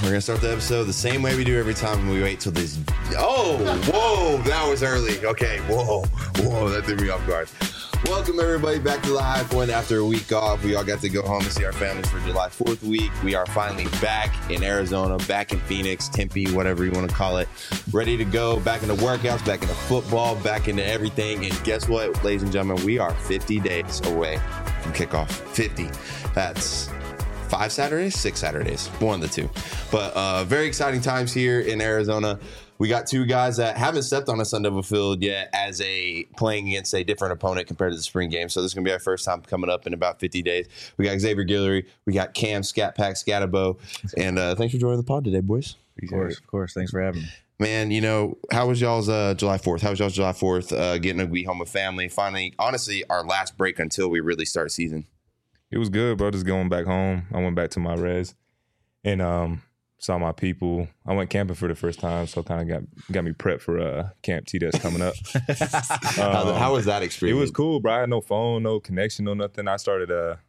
We're gonna start the episode the same way we do every time when we wait till these. Oh, whoa, that was early. Okay, whoa, that threw me off guard. Welcome everybody back to the High Point after a week off. We all got to go home and see our families for July 4th week. We are finally back in Arizona, back in Phoenix, Tempe, whatever you want to call it. Ready to go, back into workouts, back into football, back into everything. And guess what, ladies and gentlemen, we are 50 days away from kickoff. 50. That's 5 Saturdays, 6 Saturdays, one of the two. But very exciting times here in Arizona. We got two guys that haven't stepped on a Sun Devil field yet as playing against a different opponent compared to the spring game. So this is going to be our first time coming up in about 50 days. We got Xavier Guillory. We got Cam Scat Pack Scatabo. And thanks for joining the pod today, boys. Of course. Thanks for having me. Man, you know, how was y'all's July 4th? How was y'all's July 4th getting to be home with family? Finally, honestly, our last break until we really start season. It was good, bro. Just going back home. I went back to my res and saw my people. I went camping for the first time, so kind of got me prepped for Camp T that's coming up. How was that experience? It was cool, bro. I had no phone, no connection, no nothing. I started. It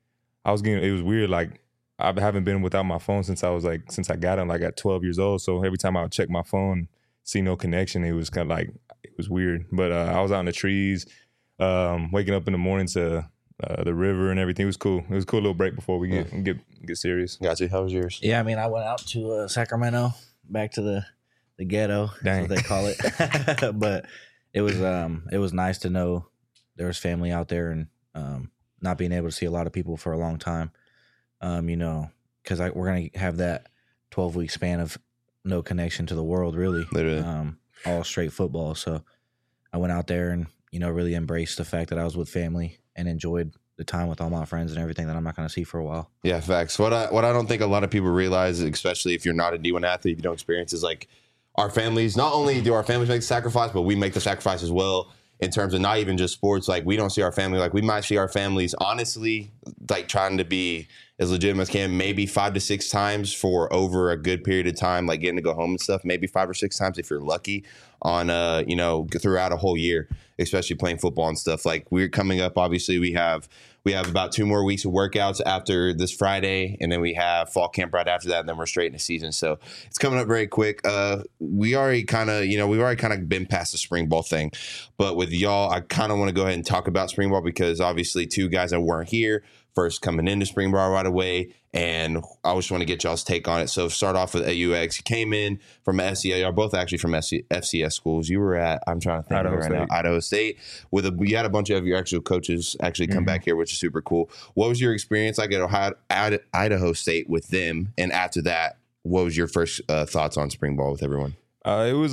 was weird. Like I haven't been without my phone since I got it like at 12 years old. So every time I would check my phone, see no connection, it was kind of like it was weird. But I was out in the trees, waking up in the morning to the river and everything. It was cool. It was a cool little break before we get serious. Gotcha. How was yours? Yeah, I mean, I went out to Sacramento, back to the ghetto, Dang. that's what they call it. But it was nice to know there was family out there and not being able to see a lot of people for a long time. You know, because we're gonna have that 12-week span of no connection to the world, really. Literally. All straight football. So I went out there and really embraced the fact that I was with family and enjoyed the time with all my friends and everything that I'm not going to see for a while. Yeah, facts. What I don't think a lot of people realize, especially if you're not a D1 athlete, if you don't experience, is like our families, not only do our families make the sacrifice, but we make the sacrifice as well in terms of not even just sports. Like we don't see our family, like we might see our families honestly, like trying to be as legitimate as can, maybe 5 to 6 times for over a good period of time, like getting to go home and stuff, maybe 5 or 6 times if you're lucky on, throughout a whole year, especially playing football and stuff. Like we're coming up, obviously we have about 2 more weeks of workouts after this Friday, and then we have fall camp right after that, and then we're straight into season. So it's coming up very quick. We've already kind of been past the spring ball thing, but with y'all, I kind of want to go ahead and talk about spring ball because obviously 2 guys that weren't here, first coming into spring ball right away, and I just want to get y'all's take on it. So start off with AUX. You came in from FCS. Y'all both actually from FCS schools. You were at, I'm trying to think Idaho State. You had a bunch of your actual coaches actually come back here, which is super cool. What was your experience like at Idaho State with them? And after that, what was your first thoughts on spring ball with everyone? It was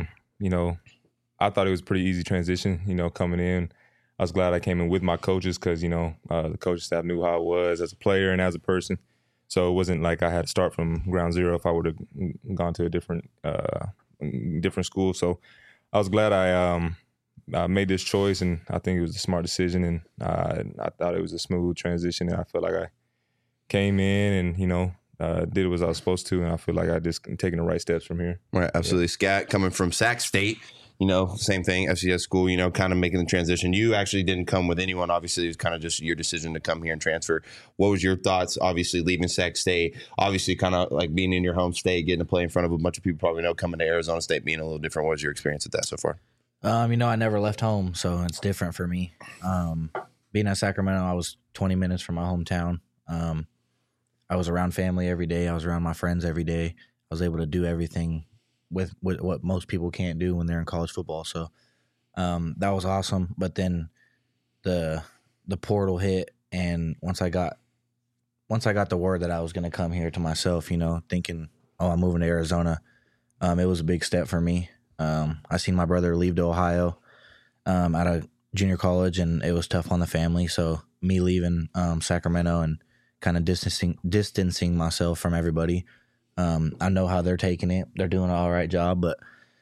I thought it was a pretty easy transition, coming in. I was glad I came in with my coaches because, the coaching staff knew how I was as a player and as a person. So it wasn't like I had to start from ground zero if I would have gone to a different school. So I was glad I made this choice, and I think it was a smart decision, and I thought it was a smooth transition, and I felt like I came in and, did what I was supposed to, and I feel like I just taking the right steps from here. Right, absolutely. Yeah. Scat coming from Sac State. Same thing, FCS school, kind of making the transition. You actually didn't come with anyone. Obviously, it was kind of just your decision to come here and transfer. What was your thoughts, obviously, leaving Sac State, obviously kind of like being in your home state, getting to play in front of a bunch of people probably know, coming to Arizona State being a little different. What was your experience with that so far? I never left home, so it's different for me. Being at Sacramento, I was 20 minutes from my hometown. I was around family every day. I was around my friends every day. I was able to do everything with what most people can't do when they're in college football. So that was awesome. But then the portal hit, and once I got the word that I was going to come here to myself, thinking, I'm moving to Arizona, it was a big step for me. I seen my brother leave to Ohio out of junior college, and it was tough on the family. So me leaving Sacramento and kind of distancing myself from everybody. I know how they're taking it. They're doing an all right job, but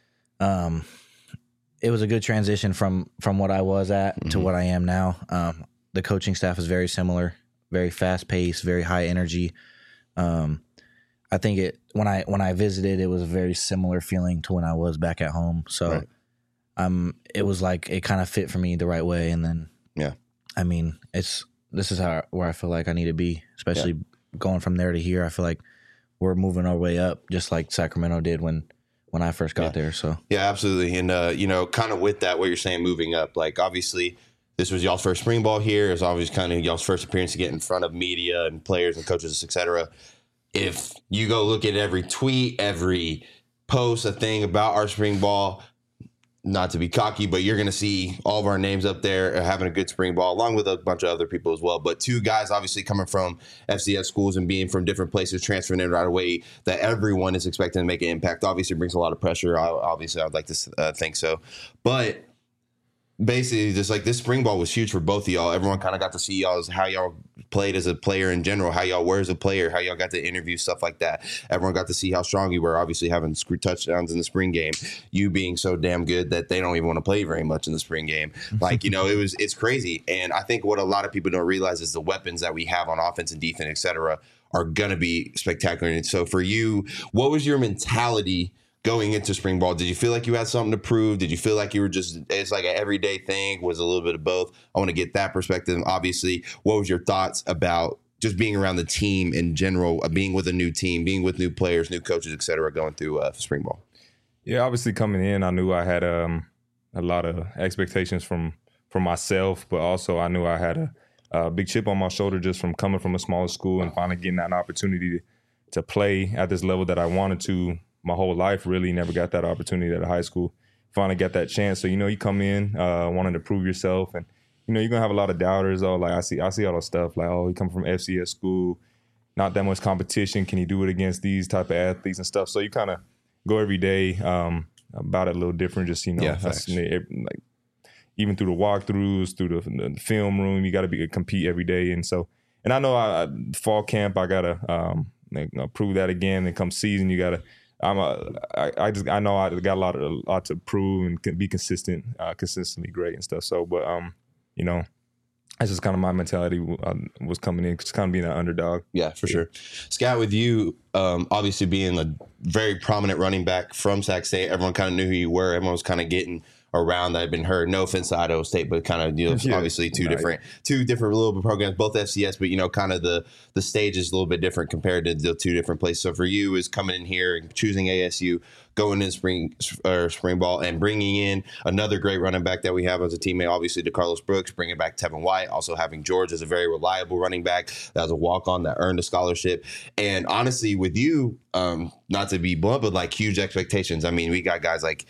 it was a good transition from what I was at to what I am now. The coaching staff is very similar, very fast paced, very high energy. I think when I visited, it was a very similar feeling to when I was back at home. So it was like it kind of fit for me the right way. And then this is where I feel like I need to be, especially going from there to here. I feel like we're moving our way up, just like Sacramento did when I first got there. So yeah, absolutely. And kind of with that, what you're saying, moving up, like obviously this was y'all's first spring ball here. It's obviously kind of y'all's first appearance to get in front of media and players and coaches, etc. If you go look at every tweet, every post, a thing about our spring ball, not to be cocky, but you're going to see all of our names up there having a good spring ball, along with a bunch of other people as well. But two guys obviously coming from FCS schools and being from different places, transferring in right away, that everyone is expecting to make an impact. Obviously, brings a lot of pressure. Obviously, I'd like to think so. But basically, just like this spring ball was huge for both of y'all. Everyone kind of got to see y'all, how y'all played as a player in general, how y'all were as a player, how y'all got to interview, stuff like that. Everyone got to see how strong you were, obviously having touchdowns in the spring game, you being so damn good that they don't even want to play very much in the spring game. Like, it's crazy. And I think what a lot of people don't realize is the weapons that we have on offense and defense, et cetera, are going to be spectacular. And so for you, what was your mentality going into spring ball? Did you feel like you had something to prove? Did you feel like you were it's like an everyday thing? Was a little bit of both? I want to get that perspective. Obviously, what was your thoughts about just being around the team in general, being with a new team, being with new players, new coaches, et cetera, going through spring ball? Yeah, obviously coming in, I knew I had a lot of expectations from myself, but also I knew I had a big chip on my shoulder just from coming from a smaller school and finally getting that opportunity to play at this level that I wanted to. My whole life, really never got that opportunity at a high school. Finally got that chance. So, you come in wanting to prove yourself, and, you're going to have a lot of doubters. Oh, like I see all that stuff like, oh, he come from FCS school, not that much competition. Can he do it against these type of athletes and stuff? So you kind of go every day about it a little different. Just, like even through the walkthroughs, through the film room, you got to compete every day. And I know fall camp, I got to prove that again. And come season, you got to, I know I got a lot to prove and can be consistent, consistently great and stuff. So, but that's just kind of my mentality was coming in, just kind of being an underdog. Yeah, for sure. Scout, with you, obviously being a very prominent running back from Sac State, everyone kind of knew who you were. Everyone was kind of getting around that had been heard. No offense to Idaho State, but kind of obviously two different little bit programs, both FCS, but kind of the stage is a little bit different compared to the two different places. So for you, is coming in here and choosing ASU, going in spring ball, and bringing in another great running back that we have as a teammate, obviously DeCarlos Brooks, bringing back Tevin White, also having George as a very reliable running back that was a walk-on that earned a scholarship. And honestly, with you, not to be blunt, but like huge expectations. I mean, we got guys like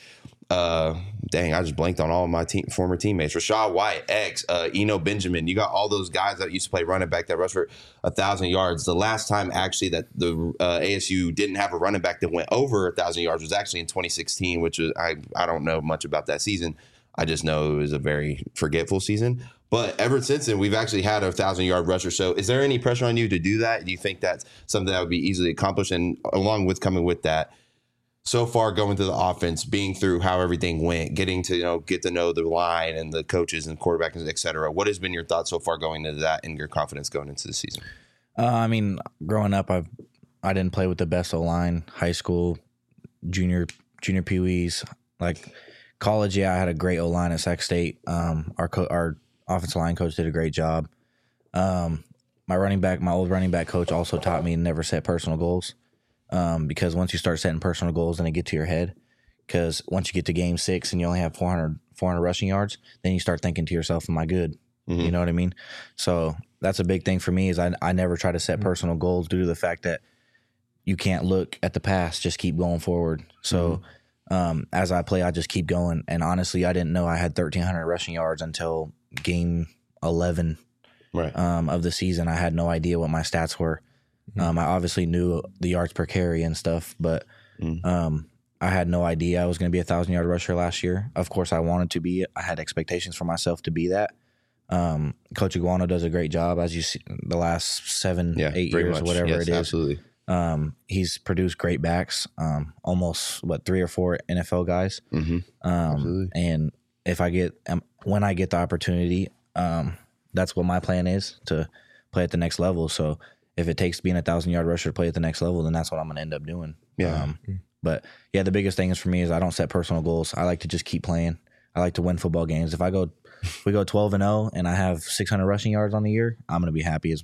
I just blanked on all of my former teammates. Rashad White, Eno Benjamin. You got all those guys that used to play running back that rushed for 1,000 yards. The last time actually that the ASU didn't have a running back that went over 1,000 yards was actually in 2016, which was I don't know much about that season. I just know it was a very forgetful season. But ever since then, we've actually had a 1,000-yard rusher. So is there any pressure on you to do that? Do you think that's something that would be easily accomplished? And along with coming with that, so far going through the offense, being through how everything went, getting to get to know the line and the coaches and quarterbacks, et cetera, what has been your thoughts so far going into that and your confidence going into the season? I mean, growing up, I didn't play with the best O-line. High school, junior peewees, like college. Yeah, I had a great O-line at Sac State. Our offensive line coach did a great job. My old running back coach also taught me to never set personal goals. Because once you start setting personal goals, then they get to your head. Because once you get to game 6 and you only have 400 rushing yards, then you start thinking to yourself, am I good? Mm-hmm. You know what I mean? So that's a big thing for me is I never try to set personal goals due to the fact that you can't look at the past, just keep going forward. So as I play, I just keep going. And honestly, I didn't know I had 1,300 rushing yards until game 11 of the season. I had no idea what my stats were. I obviously knew the yards per carry and stuff, but I had no idea I was going to be a 1,000-yard rusher last year. Of course, I wanted to be. I had expectations for myself to be that. Coach Iguano does a great job, as you see, the last 8 years, whatever it is. Absolutely. He's produced great backs, almost 3 or 4 NFL guys. Absolutely. And when I get the opportunity, that's what my plan is, to play at the next level. So if it takes being a 1,000-yard rusher to play at the next level, then that's what I'm going to end up doing. Yeah. But yeah, the biggest thing is for me is I don't set personal goals. I like to just keep playing. I like to win football games. If we go 12-0 and I have 600 rushing yards on the year, I'm going to be happy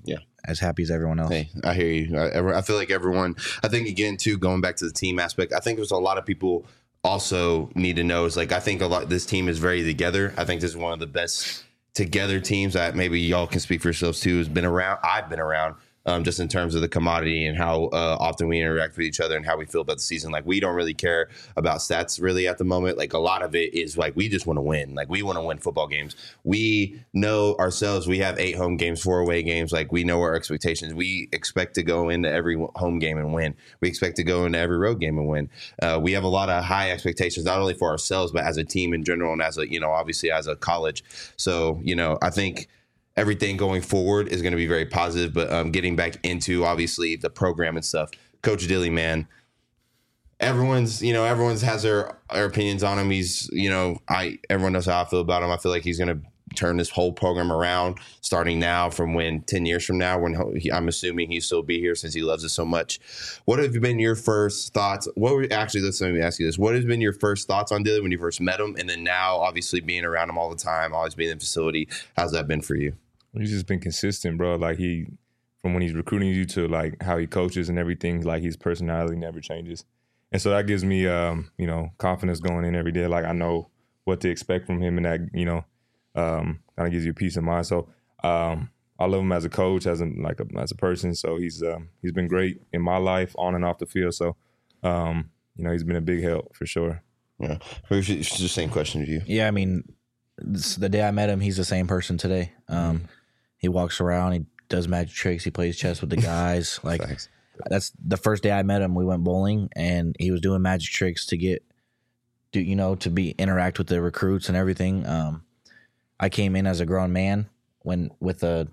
as happy as everyone else. Hey, I hear you. I feel like everyone, I think again too, going back to the team aspect, I think there's a lot of people also need to know is like, I think this team is very together. I think this is one of the best together teams that maybe y'all can speak for yourselves too, has been around. I've been around. Just in terms of the commodity and how often we interact with each other and how we feel about the season. Like, we don't really care about stats really at the moment. Like, a lot of it is like, we just want to win. Like, we want to win football games. We know ourselves. We have 8 home games, 4 away games. Like, we know our expectations. We expect to go into every home game and win. We expect to go into every road game and win. We have a lot of high expectations, not only for ourselves, but as a team in general and as a, obviously as a college. So, I think everything going forward is going to be very positive, but getting back into obviously the program and stuff. Coach Dilly, man, everyone's has their opinions on him. He's, everyone knows how I feel about him. I feel like he's going to turn this whole program around starting now from 10 years from now, when I'm assuming he'll still be here since he loves it so much. What have been your first thoughts? Let me ask you this. What has been your first thoughts on Dilly when you first met him? And then now obviously being around him all the time, always being in the facility, how's that been for you? He's just been consistent, bro. Like, from when he's recruiting you to like how he coaches and everything, like his personality never changes. And so that gives me, confidence going in every day. Like, I know what to expect from him, and that, kind of gives you peace of mind. So I love him as a coach, as a person. So he's been great in my life, on and off the field. So, he's been a big help for sure. Yeah. It's the same question to you. Yeah, I mean, the day I met him, he's the same person today. He walks around, he does magic tricks, he plays chess with the guys. Like, Thanks. That's the first day I met him. We went bowling, and he was doing magic tricks to interact with the recruits and everything. I came in as a grown man with a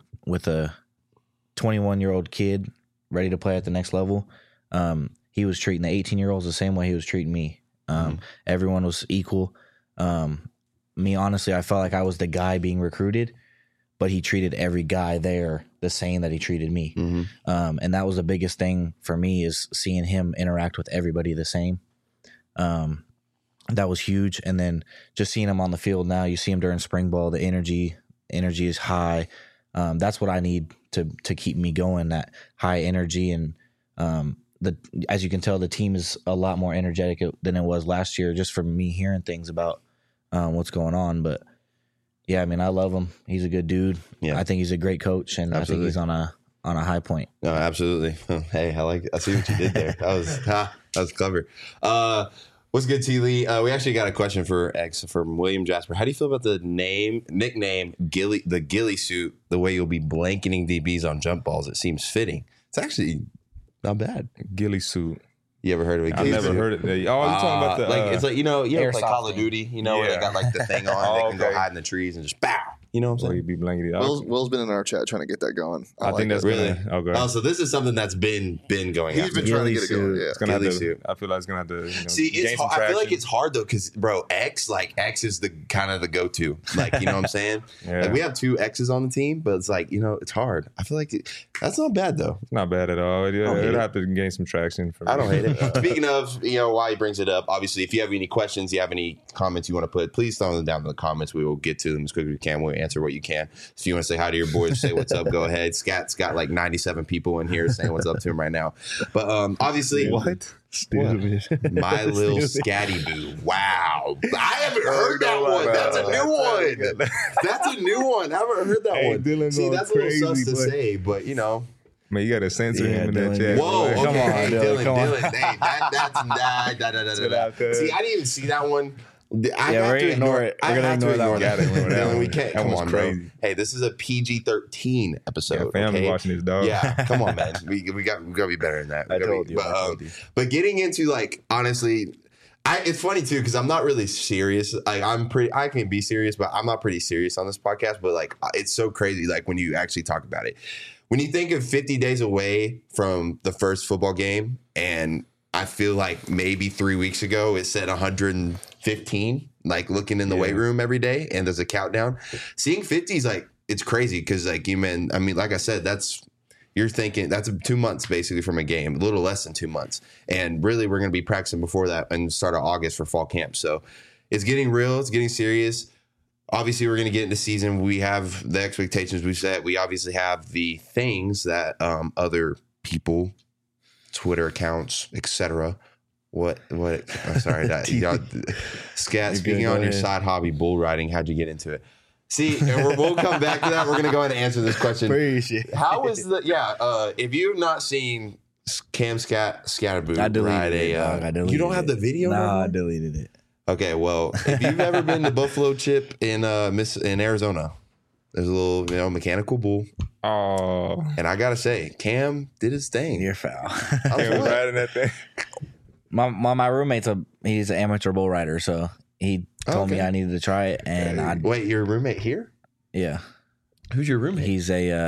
21-year-old kid ready to play at the next level. He was treating the 18-year-olds the same way he was treating me. Everyone was equal. Me, honestly, I felt like I was the guy being recruited, but he treated every guy there the same that he treated me. And that was the biggest thing for me, is seeing him interact with everybody the same. That was huge. And then just seeing him on the field now, you see him during spring ball, the energy is high. That's what I need to keep me going, that high energy. And as you can tell, the team is a lot more energetic than it was last year, just from me hearing things about what's going on. But yeah, I mean, I love him. He's a good dude. Yeah. I think he's a great coach, and absolutely. I think he's on a high point. No, absolutely. Hey, I see what you did there. That was clever. What's good, T. Lee? We actually got a question from William Jasper. How do you feel about the nickname the ghillie suit, the way you'll be blanketing DBs on jump balls? It seems fitting. It's actually not bad. Ghillie suit. You ever heard of it? I never heard it. Oh, you're talking about the it's like, you ever play Call of Duty, where they got like the thing on, they can go hide in the trees and just bow. You know what I'm saying? You'd be blanketed. Will's been in our chat trying to get that going. I think that's really okay. Oh, so this is something that's been going on. He's been trying to get it going. Yeah. It's gonna have to, I feel like it's gonna have to. See, it's hard. I feel like it's hard though, because bro, X is the kind of the go-to. Like, you know what I'm saying? Yeah. Like, we have 2 X's on the team, but it's like, it's hard. I feel like that's not bad though. It's not bad at all. It'll have to gain some traction for me. I don't hate it. Speaking of, why he brings it up, obviously, if you have any questions, you have any comments you want to put, please throw them down in the comments. We will get to them as quickly as we can. We'll answer what you can. If you want to say hi to your boys, say what's up, go ahead. Scat's got like 97 people in here saying what's up to him right now. But obviously, what? My little Scatty Boo. Wow. I haven't heard that one. That's a new one. That's a new one. I haven't heard that one. Dylan's See, that's crazy, a little sus to say, but Man, you got to censor him in that chat. Whoa, okay. Come on, Dylan. Hey, that's See, I didn't even see that one. We're going to ignore it. We're going to ignore that one. Dylan, we can't. Come on, crazy. bro. Hey, this is a PG-13 episode. Yeah, family watching this, dog. Yeah, come on, man. We got to be better than that. I told you. But getting into, like, honestly, it's funny too, because I'm not really serious. Like, I can be serious, but I'm not pretty serious on this podcast. But like, it's so crazy. Like, when you actually talk about it, when you think of 50 days away from the first football game, and I feel like maybe 3 weeks ago it said 115, like looking in the weight room every day, and there's a countdown. Seeing 50s, like, it's crazy, because like like I said, you're thinking that's 2 months basically from a game, a little less than 2 months. And really, we're going to be practicing before that and start of August for fall camp. So it's getting real. It's getting serious. obviously we're going to get into season. We have the expectations we've set. We obviously have the things that other people, Twitter accounts, etc. I'm sorry, Scat, speaking on your side hobby, bull riding, how'd you get into it? See, and we'll come back to that. We're going to go ahead and answer this question. How is if you've not seen Cam Scatterboot ride you don't have the video? No, I deleted it. Okay, well, if you've ever been to Buffalo Chip in Arizona, there's a little mechanical bull. Oh, and I gotta say, Cam did his thing. You're foul. I was riding that thing. My roommate's he's an amateur bull rider, so he told me I needed to try it, and wait, your roommate here? Yeah. Who's your roommate? He's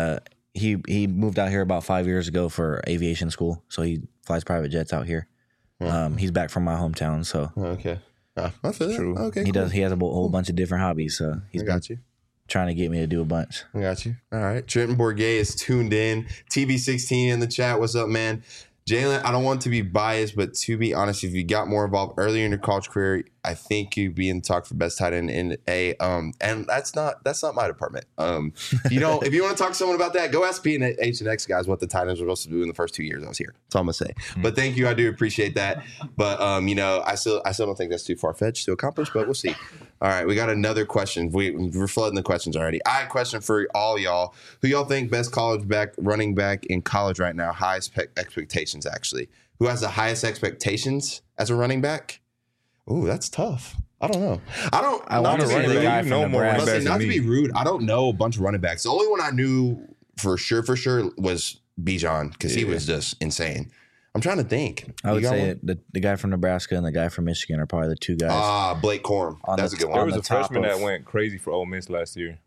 he moved out here about 5 years ago for aviation school, so he flies private jets out here. He's back from my hometown, so okay. I feel that. True. Okay, he cool. does. He has a whole bunch of different hobbies, so he's trying to get me to do a bunch. I got you. All right. Trenton Bourget is tuned in. TB16 in the chat. What's up, man? Jalen, I don't want to be biased, but to be honest, if you got more involved earlier in your college career, I think you'd be in the talk for best tight end in a and that's not my department. If you want to talk to someone about that, go ask P and H and X guys what the tight ends were supposed to do in the first 2 years I was here. That's all I'm gonna say. But thank you, I do appreciate that. But I still don't think that's too far fetched to accomplish, but we'll see. All right, we got another question. We're flooding the questions already. I have a question for all y'all. Who y'all think best running back in college right now? Highest expectations, actually. Who has the highest expectations as a running back? Ooh, that's tough. I don't know. I want to say the guy from Nebraska. Not to be rude, I don't know a bunch of running backs. The only one I knew for sure was Bijan because he was just insane. I'm trying to think. I would say the guy from Nebraska and the guy from Michigan are probably the two guys. Blake Corum. That's a good one. There was a freshman that went crazy for Ole Miss last year.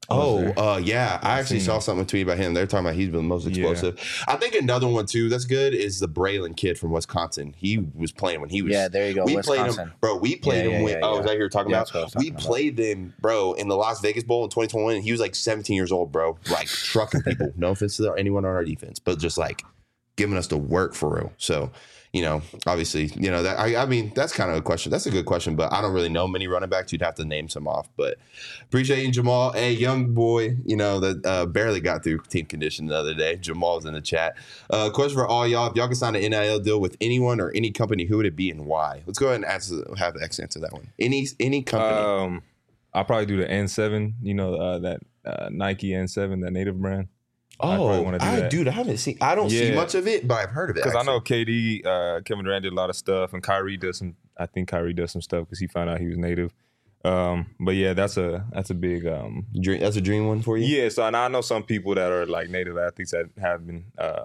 Yeah. I actually saw something tweet about him. They're talking about he's been the most explosive. Yeah. I think another one, too, that's good is the Braylon kid from Wisconsin. He was playing when he was. Yeah, there you go. We Wisconsin. played him. Bro, we played him when. Oh, is that who you're talking about? We played them, bro, in the Las Vegas Bowl in 2021. And he was like 17 years old, bro. Like trucking people. No offense to anyone on our defense, but just like giving us the work for real. So, obviously, that I mean, that's kind of a question. That's a good question, but I don't really know many running backs. You'd have to name some off. But appreciate you, Jamal. Hey, young boy, that barely got through team condition the other day. Jamal's in the chat. Question for all y'all. If y'all could sign an NIL deal with anyone or any company, who would it be and why? Let's go ahead and have X answer that one. Any company. I'll probably do the N7, that Nike N7, that native brand. Dude, I haven't seen. I don't see much of it, but I've heard of it. Because I know KD, Kevin Durant did a lot of stuff, and Kyrie does some. I think Kyrie does some stuff because he found out he was native. But yeah, that's a big dream. That's a dream one for you. Yeah. So I know some people that are like native athletes that have been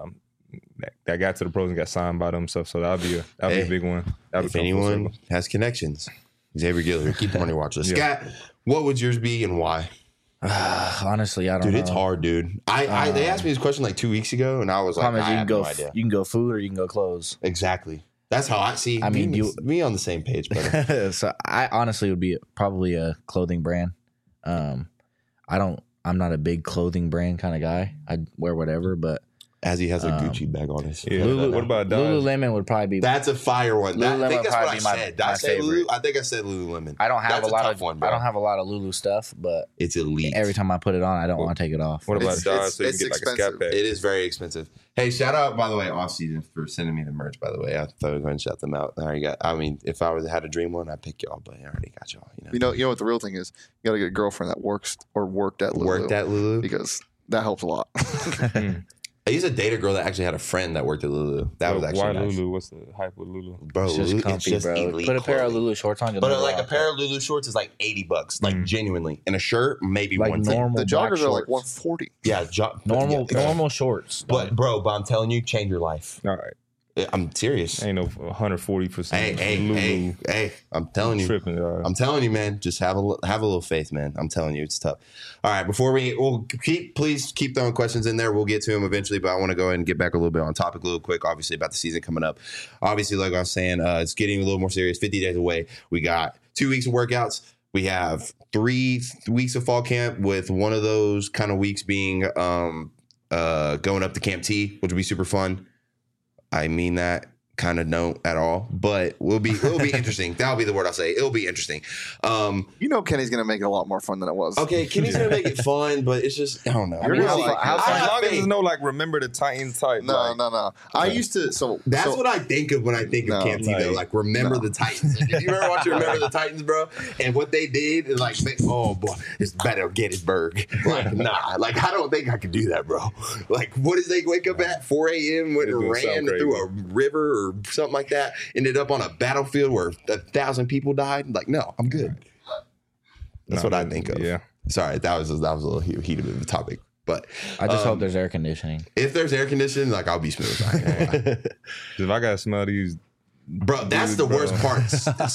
that got to the pros and got signed by them stuff. So that'll be a big one. If anyone has connections, Xavier Gillard, keep him on your watch list. Scott, what would yours be and why? Honestly, I don't know. Dude, it's hard, dude. They asked me this question like 2 weeks ago, and I was like, I have no idea. You can go food or you can go clothes. Exactly. That's how I see. I mean, me on the same page, brother. So I honestly would be probably a clothing brand. I'm not a big clothing brand kind of guy. I'd wear whatever, but as he has a Gucci bag on his. Yeah. What about Dodge? Lululemon would probably be. That's a fire one. I think that's what I said. Did I say favorite. I think I said Lululemon. I don't have a lot of one, I don't have a lot of Lulu stuff, but it's elite. Every time I put it on, I don't want to take it off. What about Dodge? So you can get like a scat pack. It is very expensive. Hey, shout out by the way, off season for sending me the merch. By the way, I thought I was going to shout them out. If I had a dream one, I'd pick y'all, but I already got y'all. You know what the real thing is? You got to get a girlfriend that works or worked at Lulu. Because that helps a lot. I used to date a girl that actually had a friend that worked at Lulu. That was actually why nice. Lulu? What's the hype with Lulu? Bro, it's just comfy, bro. Put a pair of Lulu shorts on. But like a pair of Lulu shorts is like $80, like genuinely. And a shirt, maybe like $110. The joggers are like $140. Yeah, normal shorts. But I'm telling you, change your life. All right. I'm serious. Ain't no 140%. Hey! I'm telling you. Tripping, I'm telling you, man. Just have a little faith, man. I'm telling you, it's tough. All right, we'll please keep throwing questions in there. We'll get to them eventually, but I want to go ahead and get back a little bit on topic, a little quick. Obviously, about the season coming up. Obviously, like I was saying, it's getting a little more serious. 50 days away. We got 2 weeks of workouts. We have 3 weeks of fall camp, with one of those kind of weeks being going up to Camp T, which will be super fun. I mean that kind of don't at all, but it'll be interesting. That'll be the word I'll say. It'll be interesting. Kenny's gonna make it a lot more fun than it was. Okay, Kenny's gonna make it fun, but it's just I don't know. As long as there's no like remember the Titans type. No. I used to. So that's what I think of when I think of Camp T though. Like remember the Titans. Like, if you ever watch Remember the Titans, bro, and what they did is like, oh boy, it's better Gettysburg. Like nah, like I don't think I could do that, bro. Like what did they wake up at 4 a.m. when it ran through a river or something like that, ended up on a battlefield where 1,000 people died? Like, no, I'm good. That's what I think of. Yeah. Sorry, that was a little heated of a topic, but I just hope there's air conditioning. If there's air conditioning, like I'll be smooth. If I gotta smell these, bro, that's the worst part.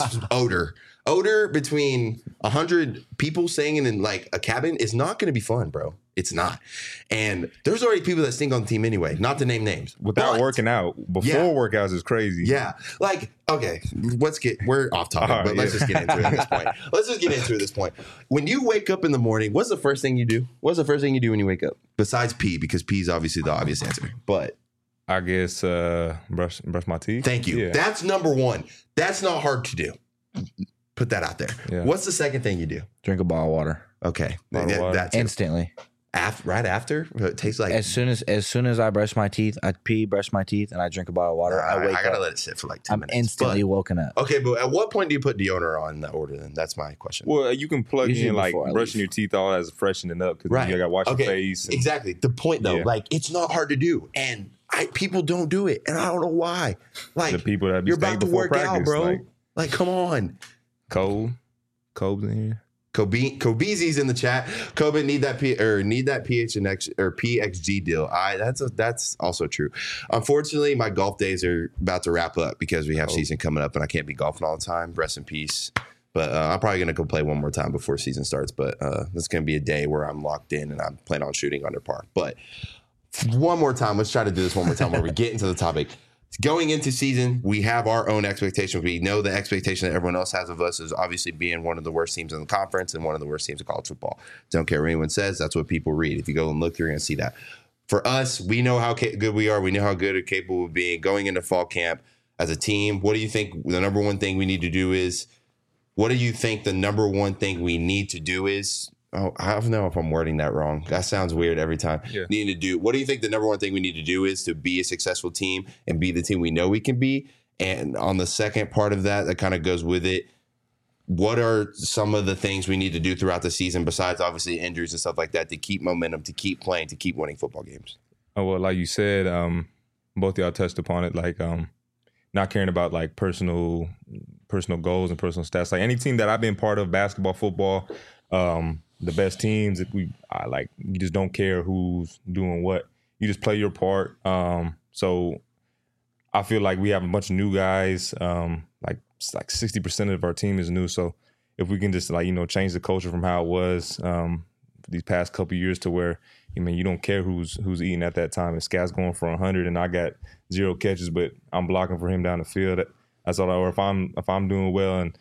Odor between 100 people singing in like a cabin is not going to be fun, bro. It's not. And there's already people that sing on the team anyway, not to name names. Without working out. Before workouts is crazy. Yeah. Like, okay, we're off topic, but let's just get into it at this point. When you wake up in the morning, what's the first thing you do? What's the first thing you do when you wake up? Besides pee, because pee is obviously the obvious answer. But I guess brush my teeth. Thank you. Yeah. That's number one. That's not hard to do. Put that out there. Yeah. What's the second thing you do? Drink a bottle of water. Okay. That's instantly. Right after? It tastes like... As soon as I brush my teeth, I pee, brush my teeth, and I drink a bottle of water. I gotta let it sit for like 2 minutes. I'm instantly woken up. Okay, but at what point do you put deodorant on in that order then? That's my question. Well, you can plug in like brushing your teeth all as freshening up because you gotta wash your face. Exactly. The point though, like it's not hard to do. And people don't do it. And I don't know why. Like the people that you're about to work out, bro. Like come on. Cole's in here. Kobeezy's in the chat. Kobe need that PHNX or PXG deal. That's also true. Unfortunately, my golf days are about to wrap up because we have season coming up and I can't be golfing all the time. Rest in peace. But I'm probably gonna go play one more time before season starts. But this is gonna be a day where I'm locked in and I'm planning on shooting under par. But one more time, let's try to do this one more time where we get into the topic. Going into season, we have our own expectations. We know the expectation that everyone else has of us is obviously being one of the worst teams in the conference and one of the worst teams in college football. Don't care what anyone says. That's what people read. If you go and look, you're going to see that. For us, we know how good we are. We know how good and capable of being going into fall camp as a team. What do you think the number one thing we need to do is? What do you think the number one thing we need to do is? Oh, I don't know if I'm wording that wrong. That sounds weird every time. Yeah. What do you think the number one thing we need to do is to be a successful team and be the team we know we can be? And on the second part of that kind of goes with it, what are some of the things we need to do throughout the season besides obviously injuries and stuff like that to keep momentum, to keep playing, to keep winning football games? Oh, well, like you said, both of y'all touched upon it, like not caring about like personal goals and personal stats. Like any team that I've been part of, basketball, football, the best teams, you just don't care who's doing what. You just play your part. So I feel like we have a bunch of new guys. Like 60% of our team is new. So if we can just change the culture from how it was these past couple of years to where you don't care who's eating at that time. If Scat's going for 100 and I got 0 catches, but I'm blocking for him down the field. That's all. Or if I'm doing well and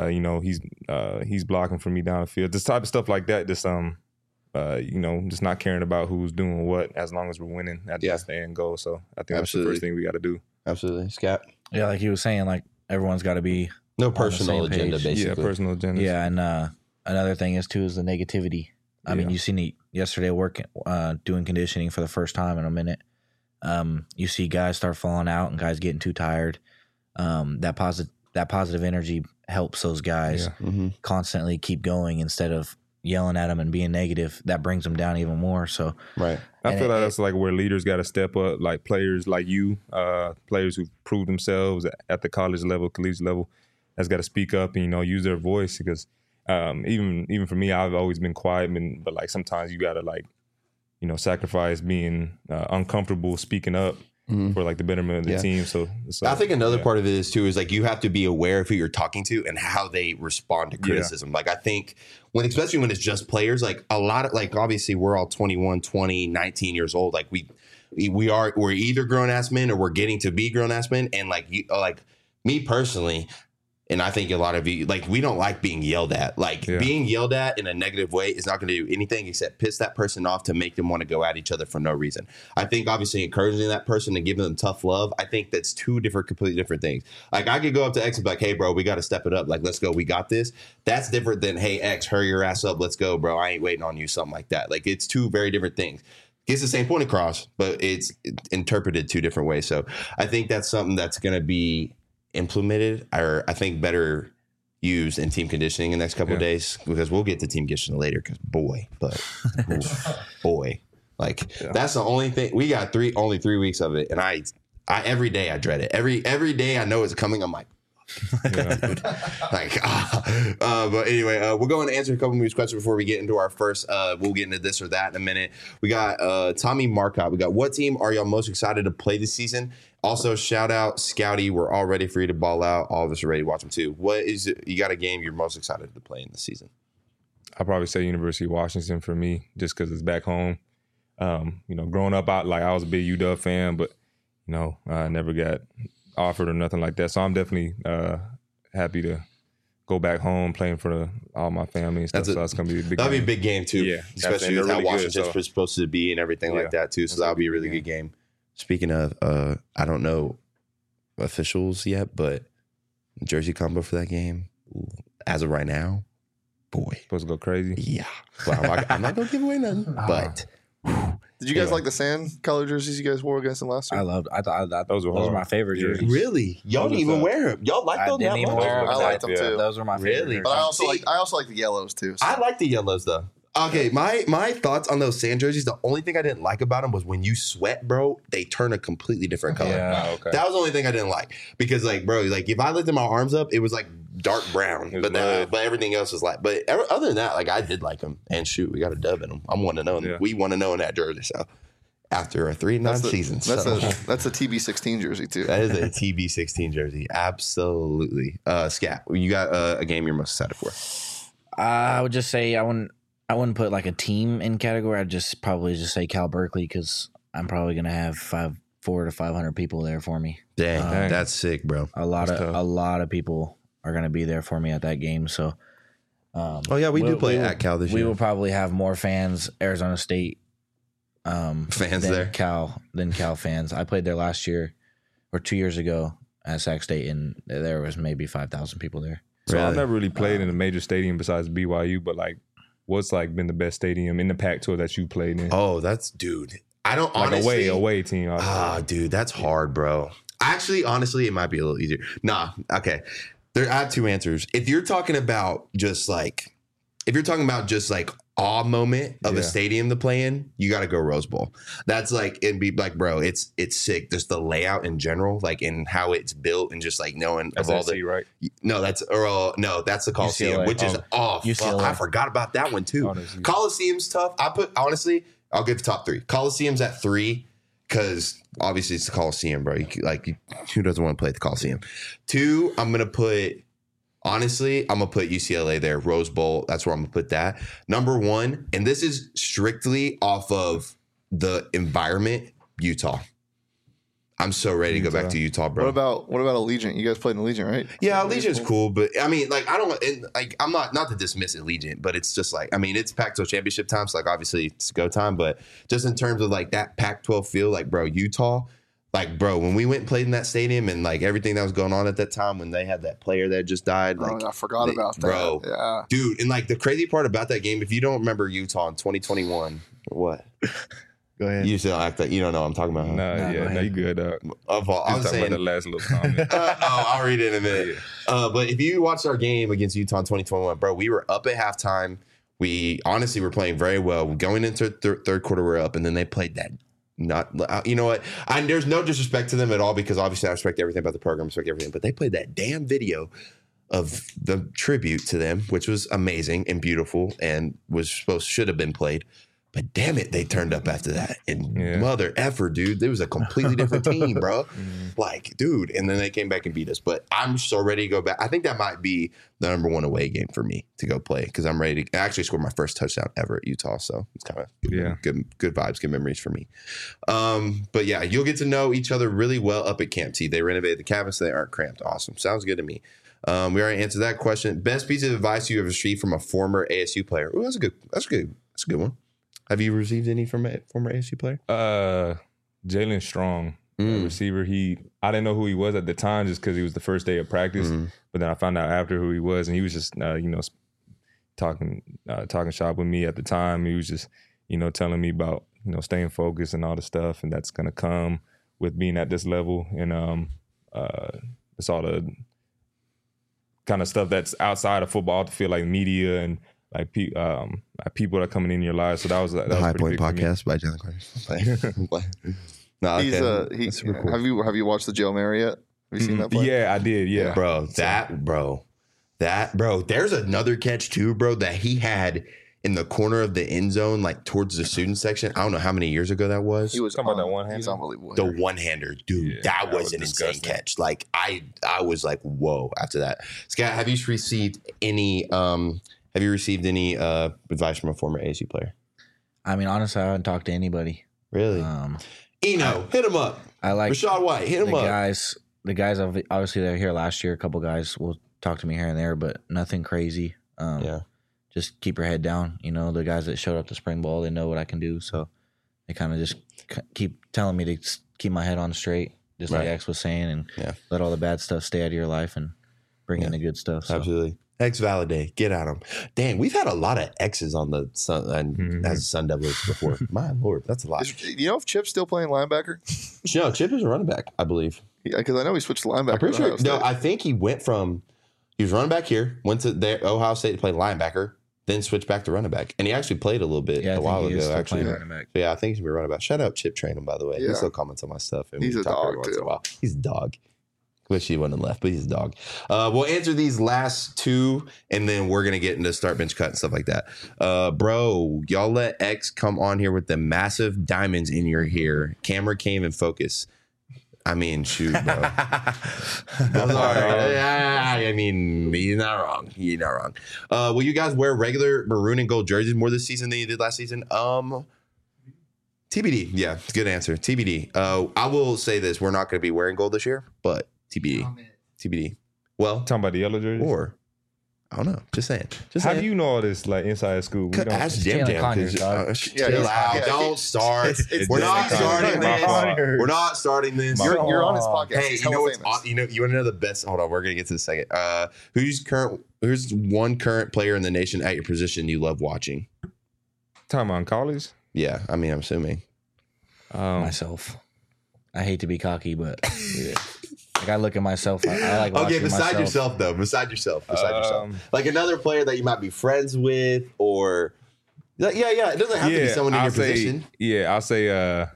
he's blocking for me down the field. This type of stuff like that. Just just not caring about who's doing what as long as we're winning. That's the end goal. So I think that's the first thing we got to do. Absolutely, Scat. Yeah, like he was saying, like everyone's got to be no personal agenda, basically. Yeah, personal agenda. Yeah, and another thing is too is the negativity. I mean, you seen it yesterday working, doing conditioning for the first time in a minute. You see guys start falling out and guys getting too tired. That positive energy helps those guys constantly keep going instead of yelling at them and being negative. That brings them down even more. So right, I feel like that's like where leaders got to step up. Like players like you, players who've proved themselves at the college level, collegiate level, has got to speak up and use their voice because even for me, I've always been quiet, but like sometimes you got to sacrifice being uncomfortable speaking up. For like the betterment of the team. So I think another part of it is too is like you have to be aware of who you're talking to and how they respond to criticism. Like I think especially when it's just players, like a lot of like obviously we're all 21, 20, 19 years old. Like we're either grown ass men or we're getting to be grown ass men. And like me personally, And I think a lot of you, like, we don't like being yelled at. Like, being yelled at in a negative way is not going to do anything except piss that person off to make them want to go at each other for no reason. I think, obviously, encouraging that person and giving them tough love, I think that's two completely different things. Like, I could go up to X and be like, hey, bro, we got to step it up. Like, let's go. We got this. That's different than, hey, X, hurry your ass up. Let's go, bro. I ain't waiting on you. Something like that. Like, it's two very different things. Gets the same point across, but it's interpreted two different ways. So I think that's something that's going to be implemented, or I think better used in team conditioning in the next couple of days, because we'll get to team conditioning later, because boy, like that's the only thing. We got only 3 weeks of it, and I every day I dread it. Every day I know it's coming, I'm like, but anyway, we'll go and answer a couple of these questions before we get into our first. We'll get into this or that in a minute. We got Tommy Marcotte. We got, what team are y'all most excited to play this season? Also, shout out Scouty. We're all ready for you to ball out. All of us are ready to watch them too. What is it? You got a game you're most excited to play in the season? I'll probably say University of Washington for me, just because it's back home. Growing up, I was a big UW fan, but I never got offered or nothing like that. So I'm definitely happy to go back home playing for all my family and stuff. So that's gonna be a big. That'll game. be a big game too. Yeah, especially with how Washington's supposed to be and everything like that too. So that'll be a really good game. Speaking of, I don't know officials yet, but jersey combo for that game, as of right now, boy, supposed to go crazy. Yeah, but I'm not gonna give away nothing. But did you guys like the sand color jerseys you guys wore against them last year? I loved. I thought those were my favorite jerseys. Really, y'all didn't even wear them. Y'all like those? I liked them too. Those were my favorite. But I also like the yellows too. So. I like the yellows though. Okay, my thoughts on those sand jerseys, the only thing I didn't like about them was when you sweat, bro, they turn a completely different color. Yeah, okay. That was the only thing I didn't like. Because, like, bro, like, if I lifted my arms up, it was, like, dark brown. But everything else was like, but other than that, like, I did like them. And shoot, we got a dub in them. I'm 1-0. Yeah. We 1-0 in that jersey, so. After a 3-9 season. That's a TB16 jersey, too. That is a TB16 jersey. Absolutely. Scat, you got a game you're most excited for? I would just say I wouldn't put like a team in category. I'd probably just say Cal Berkeley, because I'm probably going to have 400 to 500 people there for me. Dang, that's sick, bro. A lot of people are going to be there for me at that game. So, we do play at Cal this year. We will probably have more fans, Arizona State fans than Cal fans. I played there last year or 2 years ago at Sac State, and there was maybe 5,000 people there. So I've never really played in a major stadium besides BYU, but like, what's like been the best stadium in the Pac-12 that you played in? Oh, dude. I don't honestly. Away team. Dude, that's hard, bro. Actually, honestly, it might be a little easier. Nah, okay. I have two answers. If you're talking about just like awe moment of a stadium to play in, you got to go Rose Bowl. That's like, it'd be like, bro, it's sick. Just the layout in general, like in how it's built, and just like knowing that's of all the right. No, that's the Coliseum, UCLA. Which is I forgot about that one too. Coliseum's tough. I'll give the top 3. Coliseum's at 3 because obviously it's the Coliseum, bro. Who doesn't want to play at the Coliseum? 2, I'm gonna put UCLA there, Rose Bowl. That's where I'm going to put that. Number 1, and this is strictly off of the environment, Utah. I'm so ready to go back to Utah, bro. What about Allegiant? You guys played in Allegiant, right? Yeah, Allegiant's cool, but I mean, like, I'm not to dismiss Allegiant, but it's just like, I mean, it's Pac-12 championship time, so like obviously it's go time, but just in terms of like that Pac-12 feel, like, bro, Utah. Like, bro, when we went and played in that stadium and, like, everything that was going on at that time when they had that player that just died. Like, I forgot about that. Bro. Yeah. Dude, and, like, the crazy part about that game, if you don't remember Utah in 2021, what? Go ahead. You still act like you don't know what I'm talking about, huh? No, you good. I was saying about the last little comment. I'll read it in a minute. Yeah. But if you watched our game against Utah in 2021, bro, we were up at halftime. We honestly were playing very well. Going into third quarter, we're up, and then they played that. You know what? There's no disrespect to them at all, because obviously I respect everything about the program, respect everything. But they played that damn video of the tribute to them, which was amazing and beautiful, and should have been played. But damn it, they turned up after that. And mother effer, dude, there was a completely different team, bro. Like, dude, and then they came back and beat us. But I'm so ready to go back. I think that might be the number 1 away game for me to go play, because I'm ready to actually score my first touchdown ever at Utah. So it's kind of good vibes, good memories for me. But yeah, you'll get to know each other really well up at Camp T. They renovated the cabins so they aren't cramped. Awesome. Sounds good to me. We already answered that question. Best piece of advice you have received from a former ASU player? Oh, that's a good one. Have you received any from a former ASU player? Jalen Strong, receiver. I didn't know who he was at the time just because he was the first day of practice. But then I found out after who he was, and he was just talking shop with me at the time. He was just telling me about staying focused and all the stuff, and that's gonna come with being at this level, and it's all the kind of stuff that's outside of football to feel like media and like people that are coming in your lives. So that was the High Point Podcast by Jalen Carter. No, he's super cool. Have you watched the Joe Marriott? Have you seen that play? Yeah, I did. Yeah, bro. There's another catch too, bro, that he had in the corner of the end zone, like towards the student section. I don't know how many years ago that was. He was talking about that one-hander. He's unbelievable. The one-hander, dude. Yeah, that was an insane catch. Like I was like, whoa. After that, Scott, have you received any? Have you received any advice from a former ASU player? I mean, honestly, I haven't talked to anybody. Really? Eno, hit him up. I like Rashad White. Hit him up. The guys obviously that were here last year. A couple guys will talk to me here and there, but nothing crazy. Just keep your head down. The guys that showed up to spring ball, they know what I can do. So they kind of just keep telling me to keep my head on straight, just like X was saying, and let all the bad stuff stay out of your life and bring in the good stuff. So. Absolutely. X Validate, get at them. Dang, we've had a lot of X's on the Sun as Sun Devils before. My Lord, that's a lot. If Chip's still playing linebacker? No, Chip is a running back, I believe. Yeah, because I know he switched to linebacker. I'm pretty sure. No, I think he was running back here, went to Ohio State to play linebacker, then switched back to running back. And he actually played a little bit a while ago, actually. Yeah, I think he's going to be running back. Shout out Chip Trainum, by the way. Yeah. He still comments on my stuff. And he's a dog, too. He's a dog. Wish he wouldn't have left, but he's a dog. We'll answer these last two, and then we're going to get into start, bench, cut, and stuff like that. Bro, y'all let X come on here with the massive diamonds in your hair. Camera came and focus. I mean, shoot, bro. I'm sorry. I mean, he's not wrong. Will you guys wear regular maroon and gold jerseys more this season than you did last season? TBD. Yeah, good answer. TBD. I will say this. We're not going to be wearing gold this year, but TBD. Well, talking about the yellow jerseys? Or, I don't know. Just saying. How do you know all this, like, inside school? Ask Jam. Chill out. Don't start. We're not starting this. We're not starting this. You're on his podcast. Hey, you know what's you want to know the best? Hold on. We're going to get to the second. Who's one current player in the nation at your position you love watching? Talking about college? Yeah. I mean, I'm assuming. Myself. I hate to be cocky, but like I look at myself. I like watching beside yourself, though. Beside yourself. Like another player that you might be friends with, or it doesn't have to be someone in your position. Yeah, I'll say the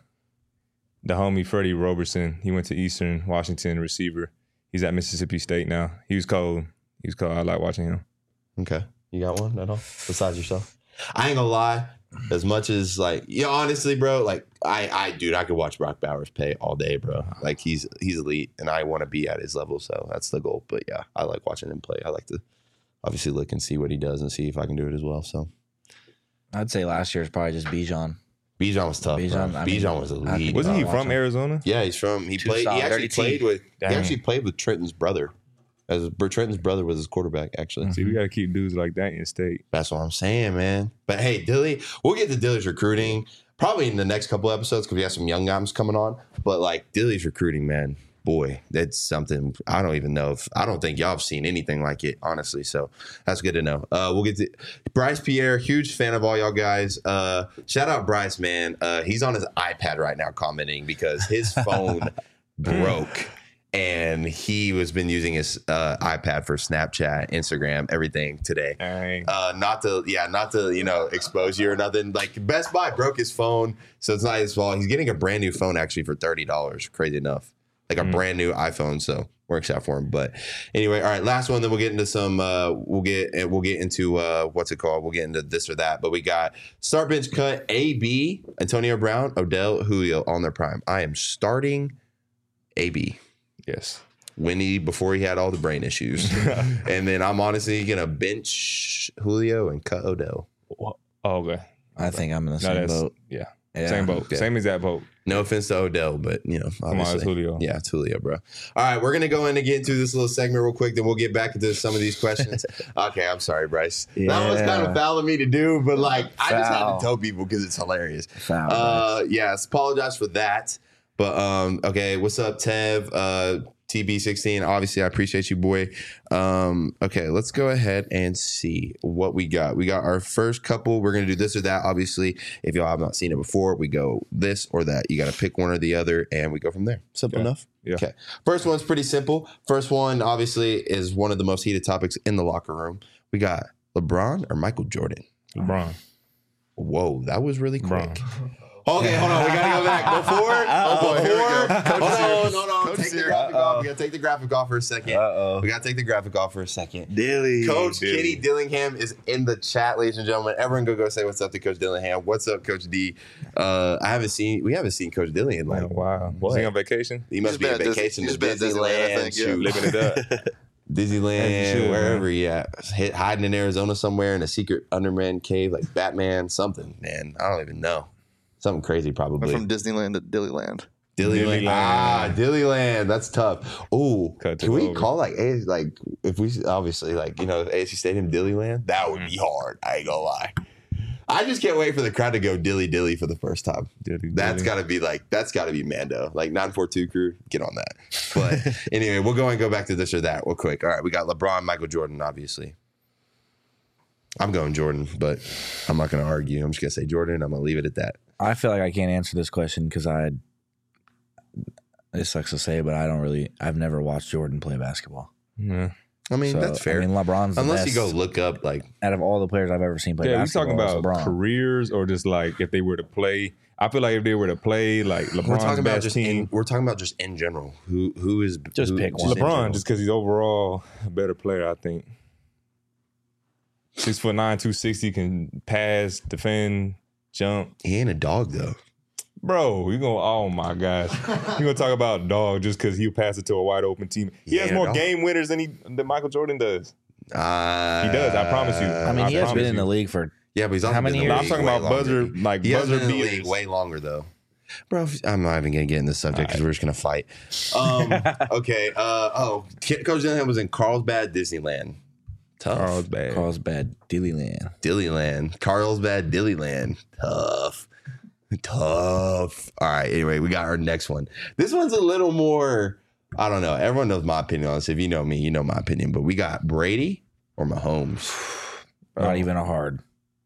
homie Freddie Roberson. He went to Eastern Washington, receiver. He's at Mississippi State now. He was cold. I like watching him. Okay, you got one at all besides yourself? I ain't gonna lie. As much as honestly, bro, like I could watch Brock Bowers play all day, bro. Like he's elite, and I want to be at his level, so that's the goal. But yeah, I like watching him play. I like to obviously look and see what he does and see if I can do it as well. So I'd say last year is probably just Bijan. Bijan was tough. Bijan was elite. Wasn't he from Arizona? Yeah, he's from. He actually played with Trenton's brother. Trenton's brother was his quarterback, actually. See, we got to keep dudes like that in state. That's what I'm saying, man. But hey, Dilly, we'll get to Dilly's recruiting probably in the next couple episodes because we have some young guys coming on. But like Dilly's recruiting, man, boy, that's something I don't even know I don't think y'all have seen anything like it, honestly. So that's good to know. We'll get to Bryce Pierre, huge fan of all y'all guys. Shout out Bryce, man. He's on his iPad right now commenting because his phone broke. And he has been using his iPad for Snapchat, Instagram, everything today. Not to expose you or nothing. Like Best Buy broke his phone, so it's not his fault. He's getting a brand new phone actually for $30. Crazy enough, like a brand new iPhone. So works out for him. But anyway, all right, last one. Then we'll get into some. We'll get into what's it called? We'll get into this or that. But we got start, bench, cut. AB, Antonio Brown, Odell, Julio on their prime. I am starting AB. Yes. Winnie before he had all the brain issues. And then I'm honestly going to bench Julio and cut Odell. Oh, okay. I think I'm in the same boat. Yeah. Same boat. Okay. Same exact boat. No offense to Odell, but obviously. Come on, it's Julio. Yeah, it's Julio, bro. All right, we're gonna go in and get into this little segment real quick, then we'll get back into some of these questions. Okay, I'm sorry, Bryce. That was kind of foul of me to do, but I just had to tell people because it's hilarious. Yes, apologize for that. But okay, what's up, Tev? TB16, obviously I appreciate you, boy. Okay, let's go ahead and see what we got. We got our first couple. We're gonna do this or that. Obviously, if y'all have not seen it before, we go this or that. You got to pick one or the other, and we go from there. Simple enough. Yeah. Okay. First one's pretty simple. First one, obviously, is one of the most heated topics in the locker room. We got LeBron or Michael Jordan. LeBron. Whoa, that was really quick. LeBron. Okay, hold on. We gotta go back. Before, hold on. Take the graphic off. We gotta take the graphic off for a second. We gotta take the graphic off for a second. Coach Kenny Dillingham is in the chat, ladies and gentlemen. Everyone go say what's up to Coach Dillingham. What's up, Coach D? We haven't seen Coach Dillingham in a while. Was he on vacation? He must be on vacation to Disneyland, I think, living it up. Disneyland, wherever he at, hiding in Arizona somewhere in a secret Underman cave like Batman, something. Man, I don't even know. Something crazy, probably. From Disneyland to Dillyland. Dillyland. Dillyland. That's tough. Ooh, can we call if we obviously ASU Stadium Dillyland? That would be hard. I ain't gonna lie. I just can't wait for the crowd to go dilly dilly for the first time. That's gotta be Mando. 942 crew, get on that. But anyway, we'll go back to this or that real quick. All right, we got LeBron, Michael Jordan, obviously. I'm going Jordan, but I'm not gonna argue. I'm just gonna say Jordan. I'm gonna leave it at that. I feel like I can't answer this question because it sucks to say, but I've never watched Jordan play basketball. Yeah. I mean, that's fair. LeBron's the unless best. you go look up out of all the players I've ever seen play basketball. Yeah, we talking about careers or just if they were to play. I feel like if they were to play LeBron's best team. We're talking about just in general. Who is just pick one. LeBron, just because he's overall a better player, I think. 6'9", 260, can pass, defend, jump. He ain't a dog though. Bro, oh my gosh. You're going to talk about dog just because he'll pass it to a wide open team. He has more game winners than Michael Jordan does. He does, I promise you. I mean, he has been in the league for but he's also how many years? I'm talking about buzzer beaters. Way longer though. Bro, I'm not even going to get in this subject because we're just going to fight. Okay. Coach Dillingham was in Carlsbad, Disneyland. Tough. Carlsbad, Dillyland. Carlsbad, Dillyland. Tough. All right. Anyway, we got our next one. This one's a little more, I don't know. Everyone knows my opinion on this. If you know me, you know my opinion. But we got Brady or Mahomes. Not even a hard.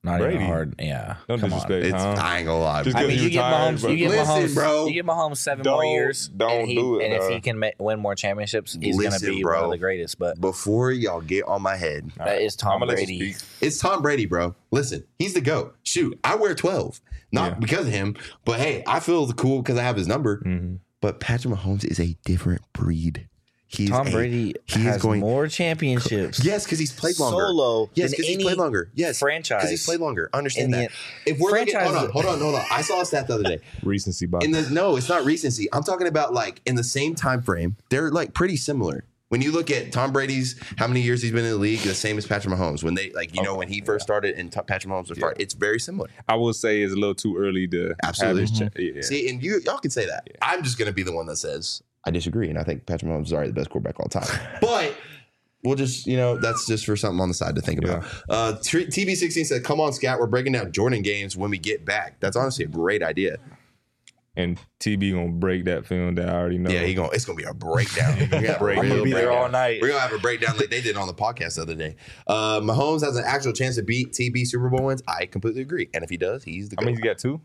Yeah. Don't disrespect. I ain't gonna lie. I mean, you get Mahomes, bro. You get Mahomes 7 more years. Don't do it. And if he can win more championships, he's gonna be one of the greatest. But before y'all get on my head, that is Tom Brady. It's Tom Brady, bro. Listen, he's the GOAT. Shoot, I wear 12, not because of him, but hey, I feel cool because I have his number. Mm-hmm. But Patrick Mahomes is a different breed. Tom Brady has more championships. Yes, because he's played longer. Solo. Yes, because he's played longer. Yes, franchise. Because he's played longer. Understand that. If we're looking, hold on. I saw a stat the other day. Recency bias. No, it's not recency. I'm talking about in the same time frame. They're pretty similar. When you look at Tom Brady's, how many years he's been in the league, the same as Patrick Mahomes. When they when he first started and Patrick Mahomes was started, it's very similar. I will say it's a little too early to absolutely see, and y'all can say that. Yeah. I'm just gonna be the one that says I disagree, and I think Patrick Mahomes is already the best quarterback of all time. But we'll just that's just for something on the side to think about. TB16 said, "Come on, Scat, we're breaking down Jordan games when we get back." That's honestly a great idea. And TB gonna break that film that I already know. Yeah, it's gonna be a breakdown. I'm gonna be there all night. We're gonna have a breakdown like they did on the podcast the other day. Mahomes has an actual chance to beat TB Super Bowl wins. I completely agree. And if he does, he's the GOAT. I mean, he's got 2?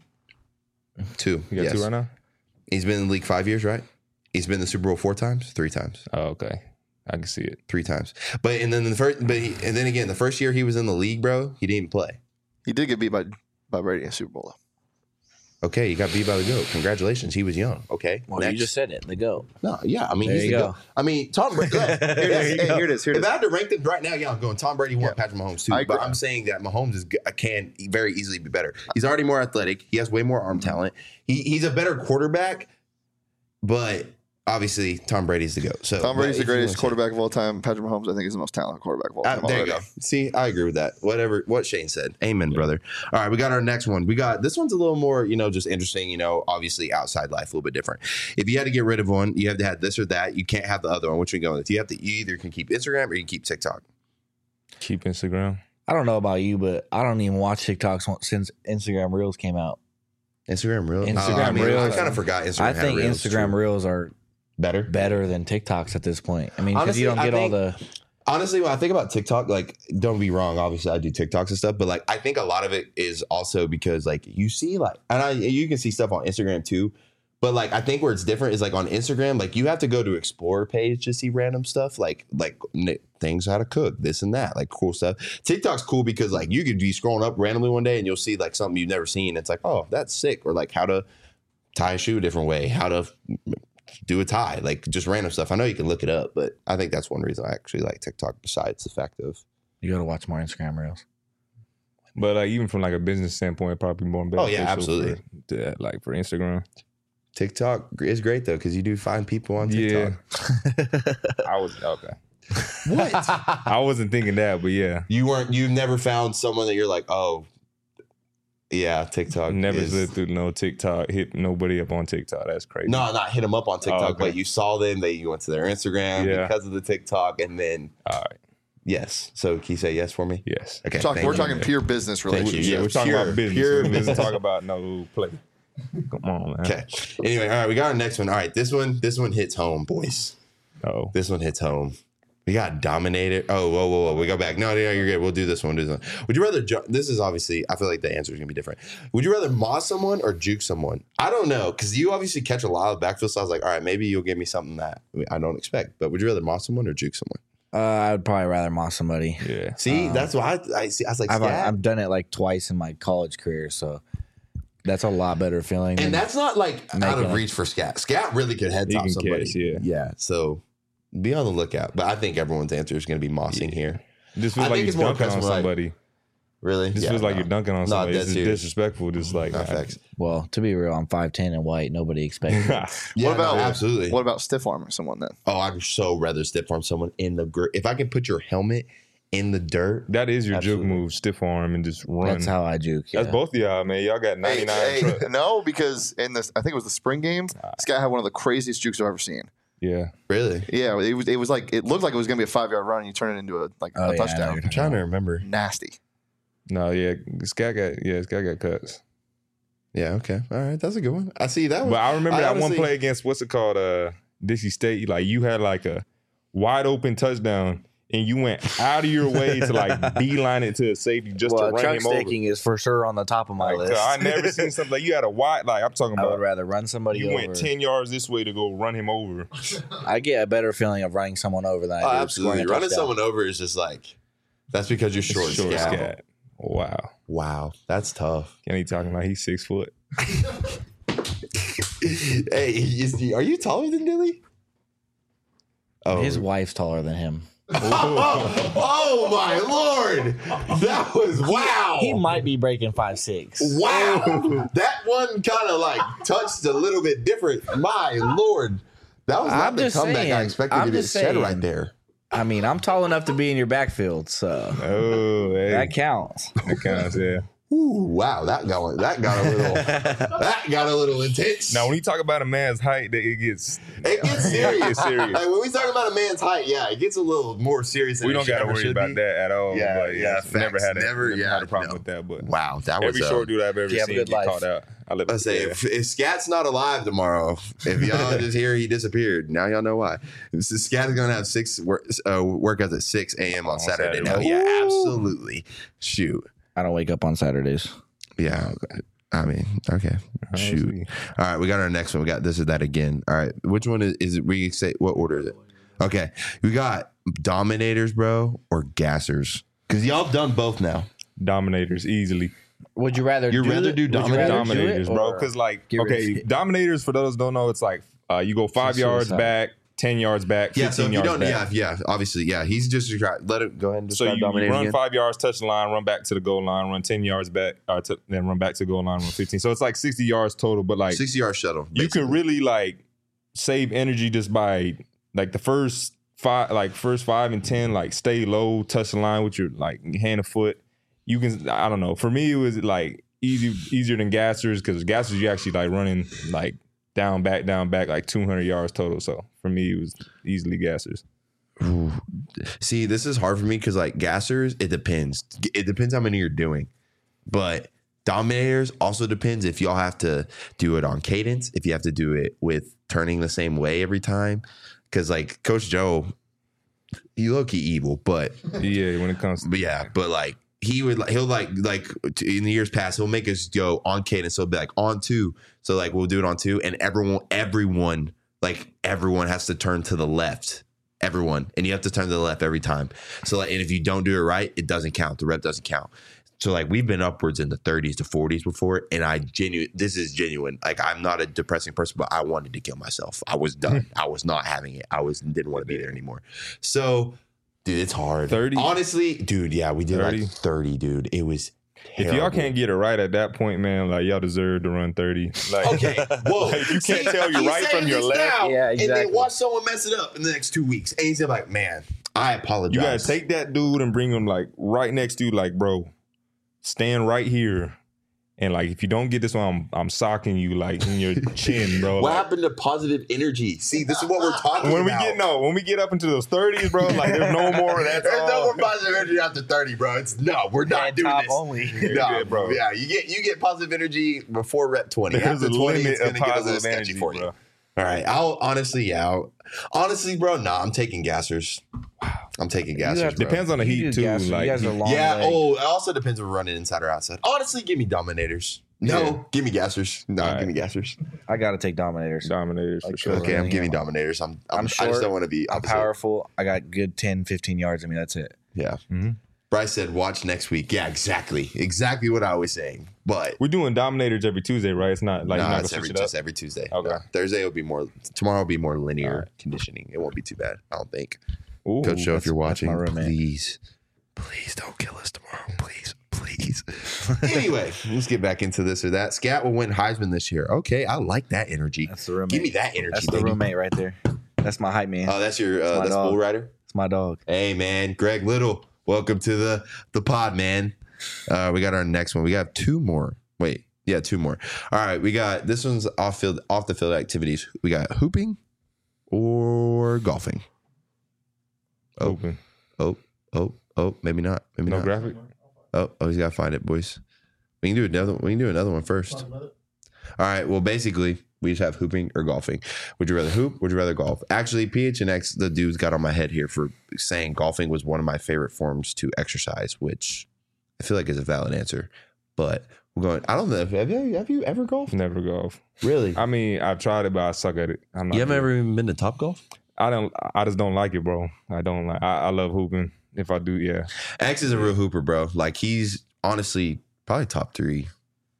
2. He got 2 right now? He's been in the league 5 years, right? He's been in the Super Bowl 4 times? 3 times. Oh, okay. I can see it. 3 times. But then again, the first year he was in the league, bro, he didn't even play. He did get beat by Brady in the Super Bowl, though. Okay, you got beat by the GOAT. Congratulations. He was young. Okay. Well, you just said it. The GOAT. No, yeah. I mean, he's the GOAT. I mean, Tom Brady. Here it is. If I had to rank them right now, I'm going Tom Brady 1, Patrick Mahomes 2. But I'm saying that Mahomes can very easily be better. He's already more athletic. He has way more arm talent. He's a better quarterback, but obviously Tom Brady's the GOAT. So Tom Brady's the greatest quarterback of all time. Patrick Mahomes, I think, is the most talented quarterback of all time. There you go. See, I agree with that. What Shane said. Amen, brother. All right, we got our next one. This one's a little more, just interesting, obviously outside life, a little bit different. If you had to get rid of one, you have to have this or that. You can't have the other one. Which one going with? You either can keep Instagram or you can keep TikTok. Keep Instagram. I don't know about you, but I don't even watch TikToks since Instagram Reels came out. Instagram Reels? Reels. I kind of forgot Instagram I think Reels. Instagram Reels are better than TikToks at this point. I mean, because you don't get all the... Honestly, when I think about TikTok, like, don't be wrong. Obviously, I do TikToks and stuff, but like, I think a lot of it is also because like you see you can see stuff on Instagram too, but like I think where it's different is like on Instagram, like you have to go to Explore page to see random stuff, like things how to cook, this and that, like cool stuff. TikTok's cool because like you could be scrolling up randomly one day and you'll see like something you've never seen. It's like, oh, that's sick, or like how to tie a shoe a different way, how to do a tie, like just random stuff. I know you can look it up, but I think that's one reason I actually like TikTok besides the fact of you got to watch more Instagram Reels. But like even from like a business standpoint, probably more beneficial. Oh yeah, absolutely. For Instagram, TikTok is great though because you do find people on TikTok. Yeah. I was okay. What? I wasn't thinking that, but yeah, you've never found someone that you're like, oh. Yeah, TikTok. Never slid through no TikTok, hit nobody up on TikTok. That's crazy. No, not hit them up on TikTok, but you saw them, you went to their Instagram because of the TikTok, and then all right. Yes. So can you say yes for me? Yes. Okay. We're talking pure business relationship. Yeah, we're talking about business. Pure business. Talk about no play. Come on, man. Okay. Anyway, all right, we got our next one. All right, this one hits home, boys. Oh. This one hits home. We got Dominator. Oh, whoa. We go back. No, you're good. We'll do this one. Would you rather, this is obviously, I feel like the answer is going to be different. Would you rather moss someone or juke someone? I don't know, because you obviously catch a lot of backfield, so I was like, all right, maybe you'll give me something that I don't expect. But would you rather moss someone or juke someone? I would probably rather moss somebody. Yeah. See, that's why I see. I was like, I've done it like twice in my college career, so that's a lot better feeling. And that's not like out of reach for Scat. Scat really could head top somebody. Catch, yeah. So be on the lookout. But I think everyone's answer is going to be mossing here. This feels like you're dunking on somebody. Really? This feels like you're dunking on somebody. This is disrespectful. Just like well, to be real, I'm 5'10" and white. Nobody expects it. Absolutely. What about stiff arming someone then? Oh, I'd so rather stiff arm someone in the if I can put your helmet in the dirt. That is your juke move, stiff arm and just run. That's how I juke. That's both of y'all, man. Y'all got 99. No, because in this, I think it was the spring game. This guy had one of the craziest jukes I've ever seen. Yeah. Really? Yeah. It was like it looked like it was gonna be a 5-yard run, and you turn it into a touchdown. I'm trying to remember. Nasty. No, yeah. This guy got cuts. Yeah. Okay. All right. That's a good one. I see that one. But I remember that one play against what's it called? Dixie State. Like you had like a wide open touchdown. And you went out of your way to like beeline it to a safety just to run him over. Staking is for sure on the top of my list. I never seen something like you had a wide. Like I'm talking about. I would rather run somebody over. You went 10 yards this way to go run him over. I get a better feeling of running someone over than I do absolutely. Running someone over is just like that's because you're short. Scat. Wow, that's tough. And he talking about he's 6 foot. Hey, are you taller than Dilly? Oh, his wife's taller than him. Oh my Lord! That was wow. He might be breaking 5'6". Wow, that one kind of like touched a little bit different. My Lord, that was not the comeback I expected to get shed right there. I mean, I'm tall enough to be in your backfield, so that counts. That counts, yeah. Ooh, wow, that got a little intense. Now, when you talk about a man's height, it gets serious. Like when we talk about a man's height, it gets a little more serious. We don't got to worry about that at all. Yeah, never had a problem with that. But wow, that was every short dude I've ever seen get caught out. Let's say if Scat's not alive tomorrow, if y'all just hear he disappeared, now y'all know why. Scat is gonna have 6 workouts at 6 a.m. on Saturday. Now, yeah, absolutely. Shoot. I don't wake up on Saturdays. Yeah. I mean, okay. Shoot. All right, we got our next one. We got this is that again. All right. Which one is it? We say what order is it? Okay. We got Dominators, bro, or Gassers. Because y'all done both now. Dominators, easily. Would you rather do Dominators, bro? Because Dominators, for those who don't know, it's like you go 5 yards back, 10 yards back, 15 yards back. Yeah, obviously, yeah. He's just let it go ahead and describe Dominator. So you run 5 yards, touch the line, run back to the goal line, run 10 yards back, then run back to the goal line, run 15. So it's like 60 yards total, but like 60-yard shuttle. Basically. You can really like save energy just by like the first 5 and 10, like stay low, touch the line with your like hand or foot. You can, I don't know. For me, it was like easier than gassers, because gassers you actually like running like down back like 200 yards total. So for me, it was easily gassers. Ooh. See, this is hard for me because like gassers, it depends. It depends how many you're doing, but dominators also depends if y'all have to do it on cadence, if you have to do it with turning the same way every time. Because like Coach Joe, he low-key evil, but yeah, when it comes to but like he'll in the years past, he'll make us go on cadence. So it'll be like on 2. So like we'll do it on 2, and everyone has to turn to the left. Everyone, and you have to turn to the left every time. So like, and if you don't do it right, it doesn't count. The rep doesn't count. So like we've been upwards in the 30s to 40s before, and this is genuine. Like I'm not a depressing person, but I wanted to kill myself. I was done. I was not having it. Didn't want to be there anymore. So, dude, it's hard. 30? Honestly, dude, yeah, we did 30? Like 30, dude. It was terrible. If y'all can't get it right at that point, man, like y'all deserve to run 30. Like, okay, whoa. Like, you can't tell your right from your left. Now, yeah, exactly. And then watch someone mess it up in the next 2 weeks. And he's like, man, I apologize. You gotta take that dude and bring him like right next to you, like, bro, stand right here. And like, if you don't get this one, I'm socking you like in your chin, bro. What happened to positive energy? See, this is what we're talking about. When we get up into those 30s, bro, like there's no more of that. There's no more positive energy after 30, bro. We're not doing this. Only. No, bro. Yeah, you get positive energy before rep 20. There's after 20, it's gonna get a little sketchy for you. Bro. All right, honestly, bro. Nah, I'm taking gassers. I'm taking gassers. Depends on the heat too. Like, it also depends if we're running inside or outside. Honestly, give me dominators. Give me gassers. Give me gassers. I gotta take dominators. Dominators for sure. Okay, I'm giving dominators. I'm short, I just don't want to be. I'm powerful. I got good 10, 15 yards in me. That's it. Yeah. Mm-hmm. Bryce said, "Watch next week." Yeah, exactly what I was saying. But we're doing dominators every Tuesday, right? It's not like it's every Tuesday. Okay. No, Thursday will be more. Tomorrow will be more linear conditioning. It won't be too bad, I don't think. Ooh, Coach Joe, if you're watching, please don't kill us tomorrow, please. Anyway, let's get back into this or that. Scat will win Heisman this year. Okay, I like that energy. That's the roommate. Give me that energy. That's the roommate right there. That's my hype man. Oh, that's your that's Bull Rider. It's my dog. Hey man, Greg Little. Welcome to the pod, man. We got our next one. We got 2 more. Wait, yeah, 2 more. All right, we got this one's off the field activities. We got hooping or golfing. Hooping. Oh, maybe not. Maybe no not. Graphic. Oh, he's got to find it, boys. We can do another one first. All right. Well, basically, we just have hooping or golfing. Would you rather hoop? Would you rather golf? Actually, PHNX, the dudes got on my head here for saying golfing was one of my favorite forms to exercise, which I feel like is a valid answer. But we're going. I don't know. Have you ever golfed? Never golf. Really? I mean, I've tried it, but I suck at it. You haven't ever even been to Top Golf? I just don't like it, bro. I don't like. I love hooping. If I do, yeah. X is a real hooper, bro. Like he's honestly probably top 3.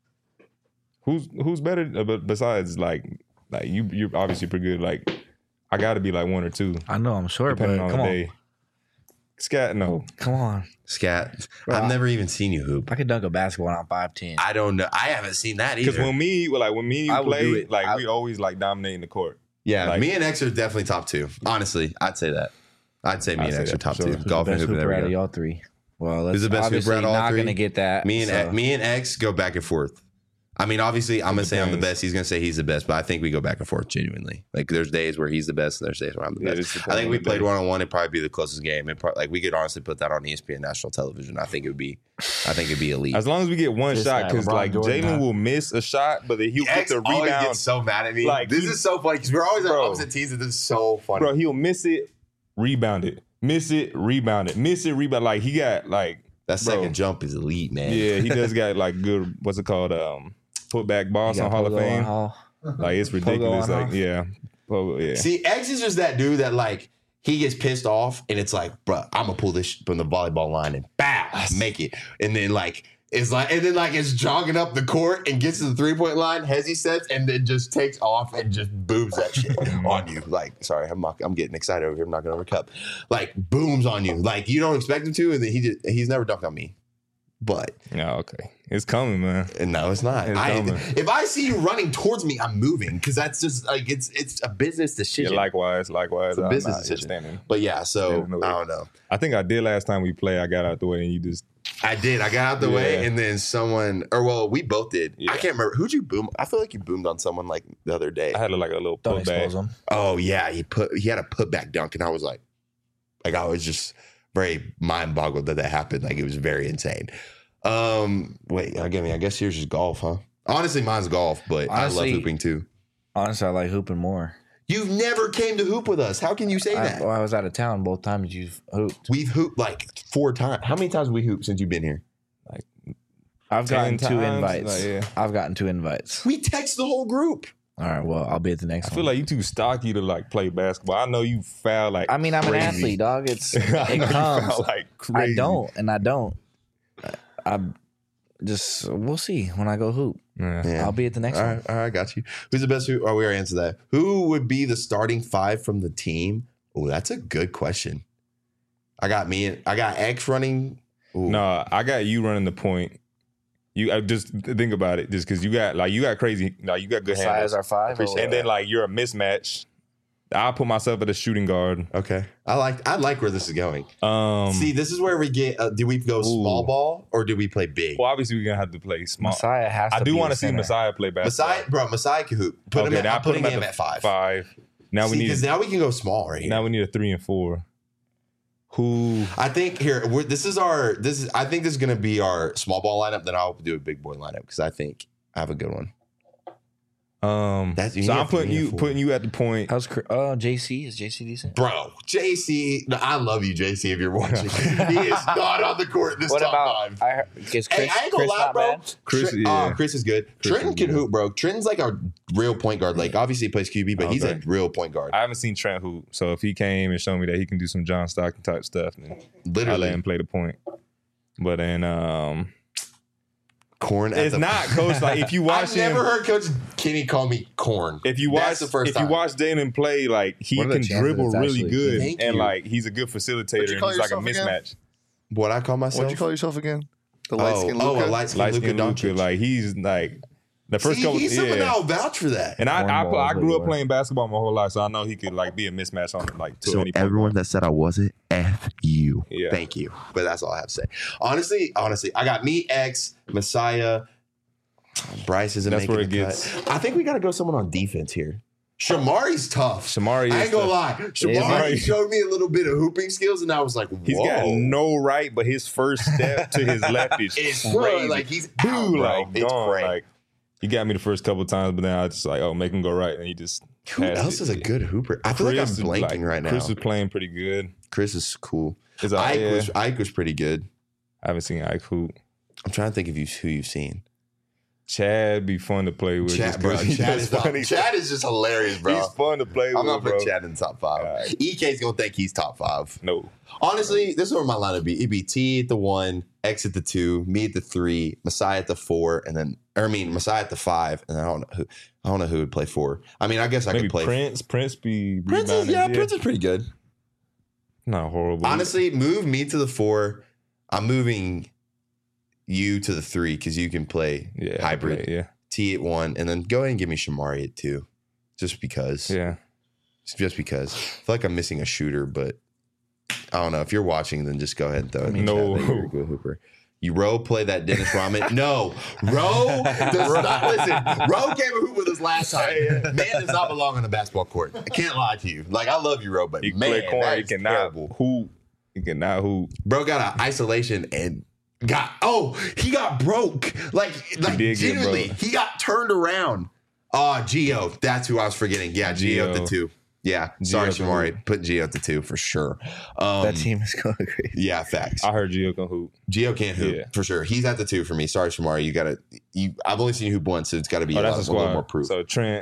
Who's better besides like you're obviously pretty good. Like I got to be like 1 or 2. I know I'm short, but come on. Scat, no. Come on. Scat. Bro, I've never even seen you hoop. I could dunk a basketball and I'm 5'10". I don't know. I haven't seen that either. Because when me and you play, like we always like dominating the court. Yeah, like, me and X are definitely top 2. Honestly, I'd say that. I'd say me and X are top 2. Golf and hooping. Out of y'all 3. Well, that's who's the best hooper out of all 3? Not gonna get that. Me and X go back and forth. I mean, obviously, I'm gonna say I'm the best. He's gonna say he's the best, but I think we go back and forth genuinely. Like, there's days where he's the best, and there's days where I'm the best. I think we played 1-on-1. It'd probably be the closest game. Like, we could honestly put that on ESPN national television. I think it'd be elite. As long as we get one shot, because like Jalen will miss a shot, but he'll get the rebound. Gets so mad at me. Like, this is so funny because we're always on opposite teams, and this is so funny. Bro, he'll miss it, rebound it, miss it, rebound it, miss it, rebound. Like he got like that second jump is elite, man. Yeah, he does got like good. What's it called? Putback Boston Hall of Fame. Like it's ridiculous. Like yeah. See, X is just that dude that like he gets pissed off and it's like, bro, I'm gonna pull this from the volleyball line and bow, make it. And then like it's jogging up the court and gets to the 3-point line, hezzy sets, and then just takes off and just booms that shit on you. Like, sorry, I'm getting excited over here. I'm knocking over a cup. Like booms on you. Like you don't expect him to, and then he's never dunked on me. But okay, it's coming, man. No, it's not. If I see you running towards me, I'm moving because that's just like it's a business decision. Yeah, likewise. It's a business decision. But yeah, so I don't know. I think I did last time we played. I got out the way and you just. I did. I got out the way, and then we both did. Yeah. I can't remember who'd you boom. I feel like you boomed on someone like the other day. I had like a little putback. Oh yeah, he had a putback dunk, and I was like I was just very mind boggled that happened. Like it was very insane. Wait, I guess yours is golf, huh? Honestly, mine's golf, but honestly, I love hooping too. Honestly, I like hooping more. You've never came to hoop with us. How can you say that? Well, I was out of town both times you've hooped. We've hooped like 4 times. How many times have we hooped since you've been here? Like I've gotten 2 invites. I've gotten 2 invites. We text the whole group. All right, well, I'll be at the next one. I feel like you too stocky to like play basketball. I know you foul like I'm an athlete, dog. It comes. Like crazy. I don't. We'll see when I go hoop. Yeah. I'll be at the next one. All right, got you. Who's the best hoop? Oh, we already answered that. Who would be the starting 5 from the team? Oh, that's a good question. I got X running. Ooh. No, I got you running the point. You just think about it, just because you got crazy, you got good hands. Size are 5, and then like you're a mismatch. I'll put myself at a shooting guard. Okay, I like where this is going. See, this is where we get. Do we go small ball or do we play big? Well, obviously we're gonna have to play small. Messiah has. I do want to see Messiah play basketball. Messiah can hoop. I'm putting him at 5. 5. Now we can go small right here. Now we need a 3 and 4. Who I think here I think this is going to be our small ball lineup. Then I'll do a big boy lineup because I think I have a good one. So I'm putting you at the point. How's JC? Is JC decent? Bro, JC, I love you, JC, if you're watching. He is not on the court this top 5. I ain't gonna lie, bro. Chris is good. Trenton can hoop, bro. Trenton's like a real point guard. Like, obviously he plays QB, but he's a real point guard. I haven't seen Trent hoop, so if he came and showed me that he can do some John Stockton type stuff, then I'll let him play the point. But then Corn. It's not Coach. Like if you watch I've never heard Coach Kenny call me Corn. If you watch Jalen play, like he can dribble really good, and like he's a good facilitator. And he's like a mismatch. What I call myself? What'd you call yourself again? The light skin Luka. Light skin Luka Doncic. Like he's like the first couple. He's someone that'll vouch for that. And I grew up playing basketball my whole life, so I know he could like be a mismatch on like. So everyone that said I wasn't, F you. Yeah. Thank you. But that's all I have to say. Honestly, I got me, X, Messiah. Bryce isn't making where it gets. I think we got to go someone on defense here. Shamari's tough. I ain't gonna lie. Shamari showed me a little bit of hooping skills, and I was like, whoa. He's got no right, but his first step to his left is crazy. Like he's out, bro. Like, it's crazy. Like, he got me the first couple of times, but then I just like, make him go right, and he just. Who else is a good hooper? I feel like I'm blanking right now. Chris is playing pretty good. Chris is cool. Ike was pretty good. I haven't seen Ike hoop. I'm trying to think of who you've seen. Chad be fun to play with. Chad is just hilarious, bro. He's fun to play with. I'm gonna put Chad in the top 5. Right. EK's gonna think he's top 5. No. Honestly, this is where my line would be. It'd be T at the 1, X at the 2, me at the 3, Messiah at the 4, Messiah at the 5, and I don't know who would play 4. I mean, I guess I could play Prince. Prince is pretty good. Not horrible. Honestly, move me to the 4. I'm moving you to the 3 because you can play hybrid. T at 1, and then go ahead and give me Shamari at 2, just because. Yeah, just because. I feel like I'm missing a shooter, but I don't know. If you're watching, then just go ahead and throw it. No, you're a good hooper. You Ro play that Dennis Rodman? No, Ro does not listen. Ro came and hoop with us last time. Man does not belong on the basketball court. I can't lie to you. Like, I love you, Ro, but man, that is terrible. He cannot hoop. Bro got an isolation and he got broke. Like genuinely, he got turned around. Gio, that's who I was forgetting. Yeah, Gio at the 2. Yeah, sorry, Shamari. Put Gio at the 2 for sure. That team is going crazy. Yeah, facts. I heard Gio can hoop. Gio can't hoop for sure. He's at the 2 for me. Sorry, Shamari. I've only seen you hoop once, so it's got to be a little more proof. So Trent,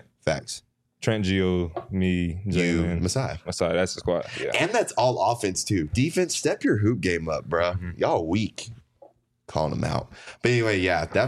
Gio, me, Jalen, Messiah. That's the squad. Yeah, and that's all offense too. Defense, step your hoop game up, bro. Mm-hmm. Y'all weak. Calling them out. But anyway,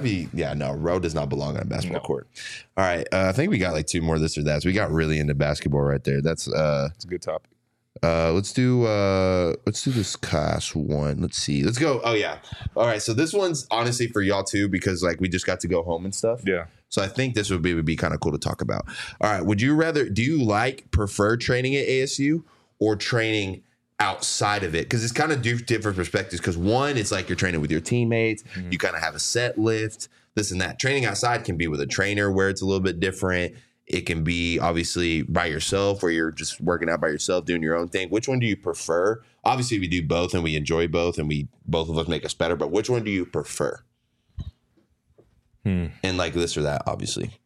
Ro does not belong on a basketball court. All right. I think we got like 2 more this or that. So we got really into basketball right there. That's it's a good topic. Let's do this class one. Let's see. Let's go. Oh yeah. All right. So this one's honestly for y'all too, because like we just got to go home and stuff. Yeah. So I think this would be kind of cool to talk about. All right. Do you prefer training at ASU or training outside of it? Because it's kind of different perspectives. Because one, it's like you're training with your teammates. Mm-hmm. You kind of have a set lift, this and that. Training outside can be with a trainer where it's a little bit different. It can be obviously by yourself where you're just working out by yourself, doing your own thing. Which one do you prefer? Obviously, we do both and we enjoy both and both of us make us better. But which one do you prefer? And like this or that, obviously.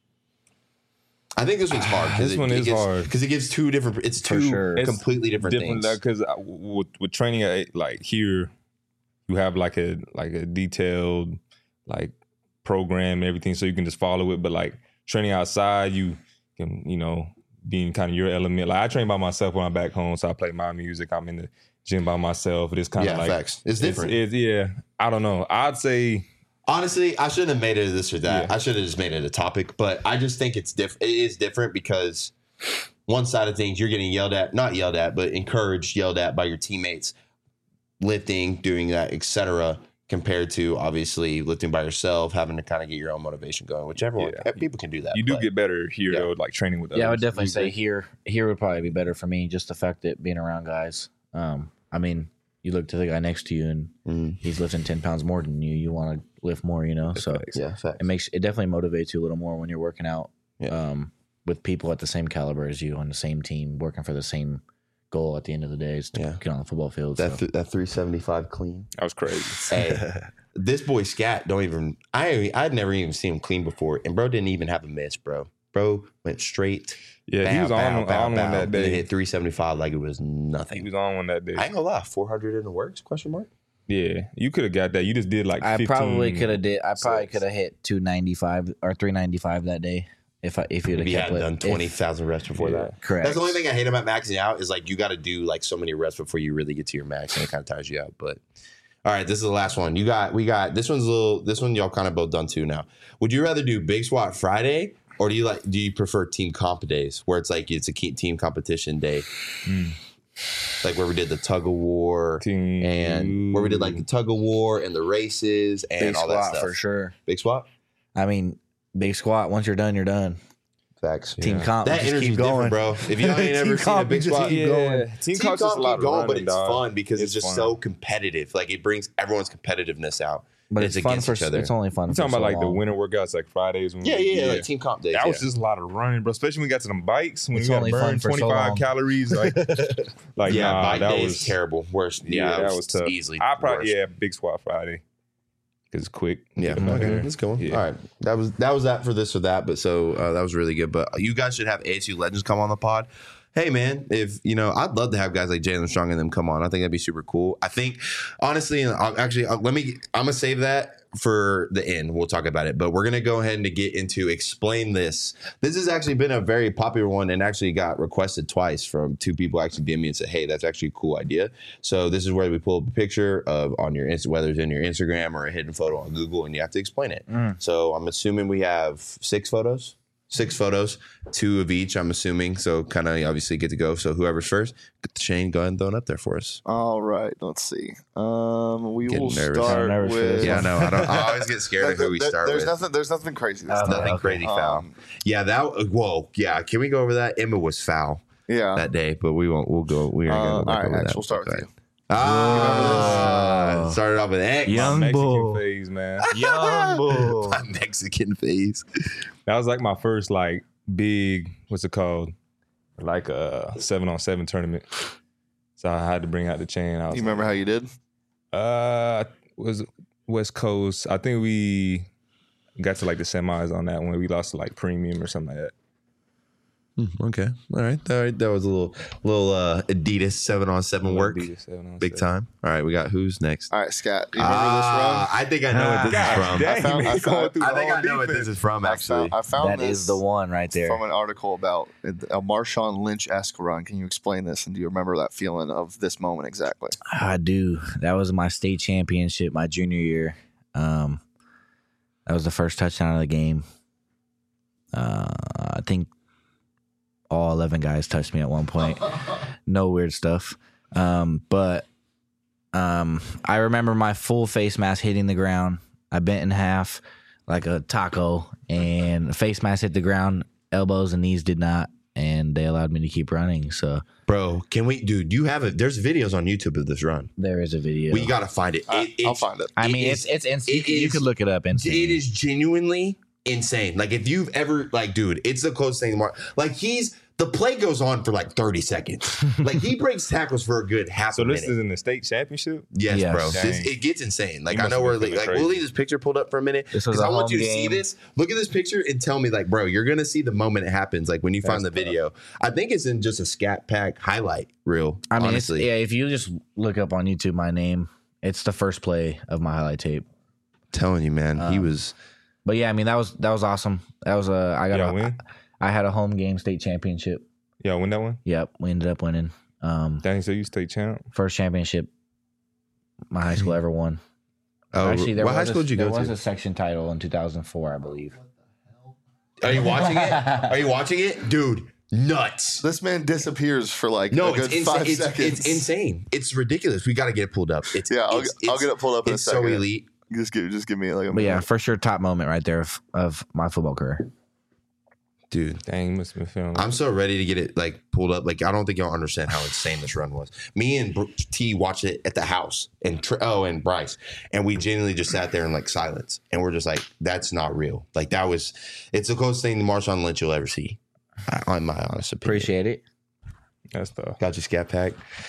I think this one's hard. This one is hard. Because it gives two different, it's two completely different things. Because with training like here, you have like a detailed like program and everything so you can just follow it. But like, training outside, you can, be in kind of your element. Like I train by myself when I'm back home, so I play my music. I'm in the gym by myself. It's kind of like facts. It's different. I don't know. I'd say honestly, I shouldn't have made it this or that. Yeah. I should have just made it a topic. But I just think it's different. It is different because one side of things you're getting not yelled at, but encouraged, yelled at by your teammates, lifting, doing that, etc. Compared to obviously lifting by yourself, having to kind of get your own motivation going, which people can do that. You do get better here though, like training with others. Yeah, I would definitely say here would probably be better for me. Just the fact that being around guys. I mean, you look to the guy next to you and he's lifting 10 pounds more than you. You want to lift more, So it definitely motivates you a little more when you're working out with people at the same caliber as you on the same team, working for the same goal at the end of the day is to get on the football field. That 375 clean. That was crazy. Hey, this boy Scat I'd never even seen him clean before, and bro didn't even have a miss, bro. Bro went straight. Yeah, he was on one that day. And hit 375 like it was nothing. He was on one that day. I ain't gonna lie, 400 in the works? Question mark. Yeah, you could have got that. You just did like 15. I probably could have hit 295 or 395 that day. If you'd have kept done 20,000 reps before that. Correct. That's the only thing I hate about maxing out is like you got to do like so many reps before you really get to your max, and it kind of tires you out. But all right, this is the last one. We got this one y'all kind of both done too now. Would you rather do Big Squat Friday or do you prefer team comp days where it's like it's a team competition day? Like where we did the tug of war and where we did like the tug of war and the races and Big all that stuff. For sure. Big Squat? I mean, Big Squat, once you're done, you're done. Facts. Team comp, that energy keep going, bro. If you ain't ever seen a Big Squat, keep going. Team comp's just a lot of running, but it's fun because it's just so competitive. Like it brings everyone's competitiveness out. But it's fun for each other. It's only fun. I'm talking about like the winter workouts, like Fridays. Like team comp days. That was just a lot of running, bro. Especially when we got to them bikes when it's we got to burn 25 calories. Like bike that was terrible. Worse. Yeah, that was tough. Easily. I probably Big Squat Friday. It's quick. Yeah. Okay. Let's go. Yeah. All right. That was that for this or that. But so that was really good. But you guys should have ASU legends come on the pod. Hey man, if I'd love to have guys like Jalen Strong and them come on. I think that'd be super cool. I think honestly, and I'm gonna save that for the end. We'll talk about it, but we're gonna go ahead and get into explain this. This has actually been a very popular one and actually got requested twice from two people. Actually DM me and said, "Hey, that's actually a cool idea." So this is where we pull up a picture of on your whether it's in your Instagram or a hidden photo on Google, and you have to explain it. So I'm assuming we have 6 photos. 6 photos, 2 of each, I'm assuming. So kind of obviously get to go. So whoever's first, Shane, go ahead and throw it up there for us. All right. Let's see. We Getting will nervous. start with... Yeah, no, I always get scared of who we start with. There's nothing crazy. There's nothing crazy foul. Can we go over that? Emma was foul that day, but we won't. We'll go. We are going to go over that. We'll start with you. Started off with X. Young Mexican phase, man. Young bull. My Mexican phase. That was like my first like big, what's it called? Like a 7-on-7 tournament. So I had to bring out the chain. You remember how you did? Was West Coast. I think we got to like the semis on that one. We lost to like premium or something like that. Okay. All right. That was a little Adidas 7-on-7 work. Adidas 7-on-7. Big time. All right. We got who's next? All right, Scott. Do you remember this run? I think I know what this is from. I think I know what this is from, actually. I found that this is the one right there. From an article about a Marshawn Lynch-esque run. Can you explain this? And do you remember that feeling of this moment exactly? I do. That was my state championship my junior year. That was the first touchdown of the game. I think all 11 guys touched me at one point. no weird stuff. But I remember my full face mask hitting the ground. I bent in half like a taco, and the face mask hit the ground. Elbows and knees did not, and they allowed me to keep running. So, Bro, can we, dude? You have it. There's videos on YouTube of this run. there is a video. We gotta find it. I'll find it. I mean, is- it's it you is- could look it up. Insane. It is genuinely insane. Like if you've ever, like, dude, it's the closest thing to Mark. Like the play goes on for like 30 seconds. Like he breaks tackles for a good half So a this minute. is in the state championship. Yes, Yes. bro. Dang. It gets insane. Like You I must know have we're been feeling like we'll crazy. leave this picture pulled up for a minute This was because a I want home you to see game. this. Look at this picture and tell me, like, bro, you're gonna see the moment it happens. Like when you find the That's tough. video. I think it's in just a Scat Pack highlight reel. I mean, honestly, if you just look up on YouTube my name, it's the first play of my highlight tape. telling you, man, he was. But yeah, I mean that was awesome. That was Y'all win? I had a home game state championship. Y'all win that one? Yep, we ended up winning. Dang, so you state champ. First championship my high school ever won. Oh, Actually, there what high was school did you there go was to? a section title in 2004, I believe. Are you watching it? Are you watching it, dude? Nuts. This man disappears for like No, a good it's 5 insane. seconds. It's insane. It's ridiculous. We got to get it pulled up. It's Yeah, I'll get it pulled up in a It's second. so elite. Just give me like a But yeah, minute. for sure, top moment right there of my football career. Dude, Dang, you must have been feeling. I'm so ready to get it like pulled up. Like I don't think y'all understand how insane this run was. Me and T watched it at the house, and and Bryce, and we genuinely just sat there in like silence, and we're just like, "That's not real." Like it's the closest thing to Marshawn Lynch you'll ever see, in my honest opinion. Appreciate it. That's tough. Got you, Scat Pack,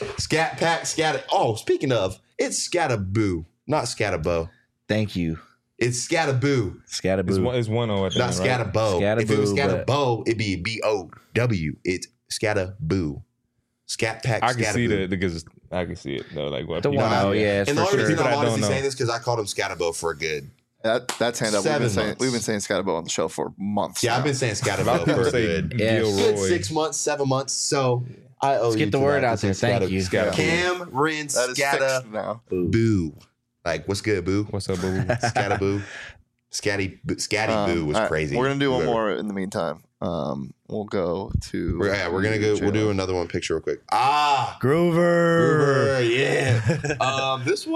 Scat. Oh, speaking of, it's Scataboo, not Scatabo. Thank you, It's Scataboo, Scattaboo. It's 1-0 at the not end, right? Scatabo. If it was Scataboo, but- Scatabo, it'd be BOW. It's Scataboo. Scat Pack. I can see Scataboo. because I can see it though. Like what The people- one, oh yeah, it's And the for only sure. reason But I'm I don't honestly know. saying this because I called him Scatabo for a good. That's hand up. 7 months. We've been saying Scatabo on the show for months. Yeah, now. I've been saying A lot Scatabo of people for a say good, Yeah. Gilroy. good 6 months, 7 months. So I owe Let's you get the to word that. out there. This is Thank you. Scataboo. Cameron That is Scata fixed now. Boo. Like, what's good, Boo? What's up, boo? Scataboo. Scatty Boo was all right, crazy. We're gonna do one Whoever. more in the meantime. We'll go to. We're gonna go. We'll do another one picture real quick. Ah, Groover. yeah. This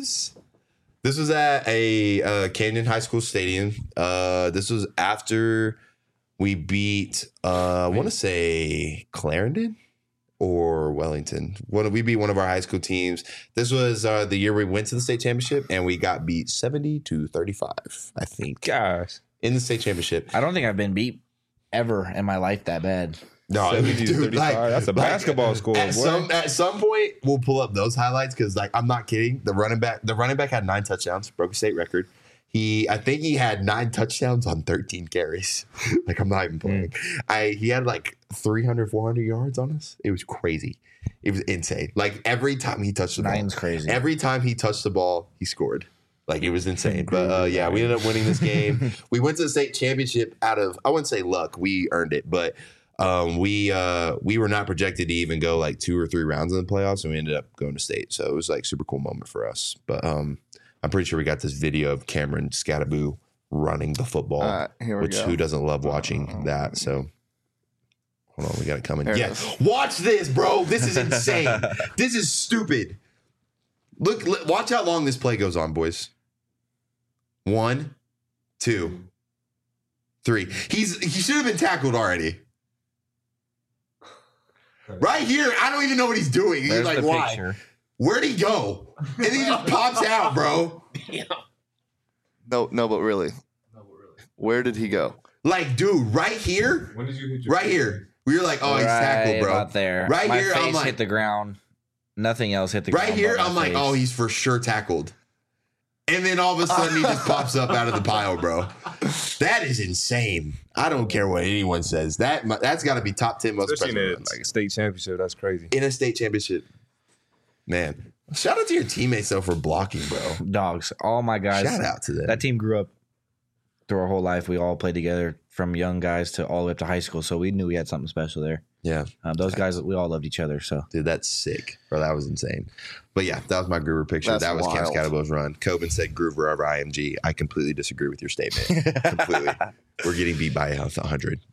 was at a Canyon High School stadium. This was after we beat I want to say Clarendon or Wellington. We beat one of our high school teams. This was the year we went to the state championship, and we got beat 70-35, I think, Gosh, in the state championship. I don't think I've been beat ever in my life that bad. No, 70-35. That's a basketball score, At boy. some point, we'll pull up those highlights because, like, I'm not kidding. The running back had 9 touchdowns, broke a state record. I think he had 9 touchdowns on 13 carries. Like, I'm not even playing. He had like 300, 400 yards on us. It was crazy. It was insane. Like every time he touched the ball, 9's crazy. every time he touched the ball, he scored. Like it was insane. But yeah, we ended up winning this game. We went to the state championship out of, I wouldn't say luck. We earned it, but we were not projected to even go like 2 or 3 rounds in the playoffs, and we ended up going to state. So it was like super cool moment for us. But I'm pretty sure we got this video of Cameron Scataboo running the football, Here we which go. who doesn't love watching that? So hold on, we got it coming. There it Yeah, is. watch this, bro. This is insane. This is stupid. Look, watch how long this play goes on, boys. 1, 2, 3. He should have been tackled already. Right here, I don't even know what he's doing. He's There's like, the why? picture. Where'd he go? And he just pops out, bro. No, but really, where did he go? Like, dude, right here, When did you hit your right here. We were like, oh, he's tackled, bro. About there. Right my here, I'm face like- hit the ground. Nothing else hit the ground. Right here, but my I'm like, face. oh, he's for sure tackled. And then all of a sudden, he just pops up out of the pile, bro. That is insane. I don't care what anyone says. That's got to be top 10 most Especially in impressive a, runs. like a state championship. That's crazy. In a state championship. Man, shout out to your teammates, though, for blocking, bro. dogs. All my guys. Shout out to them. That team grew up through our whole life. We all played together from young guys to all the way up to high school. So we knew we had something special there. Yeah. Those guys, we all loved each other. So Dude, that's sick, bro. That was insane. But yeah, that was my Groover picture. That's that was Cam wild. Scatabo's run. Coben said Groover over IMG. I completely disagree with your statement. Completely. We're getting beat by 100, but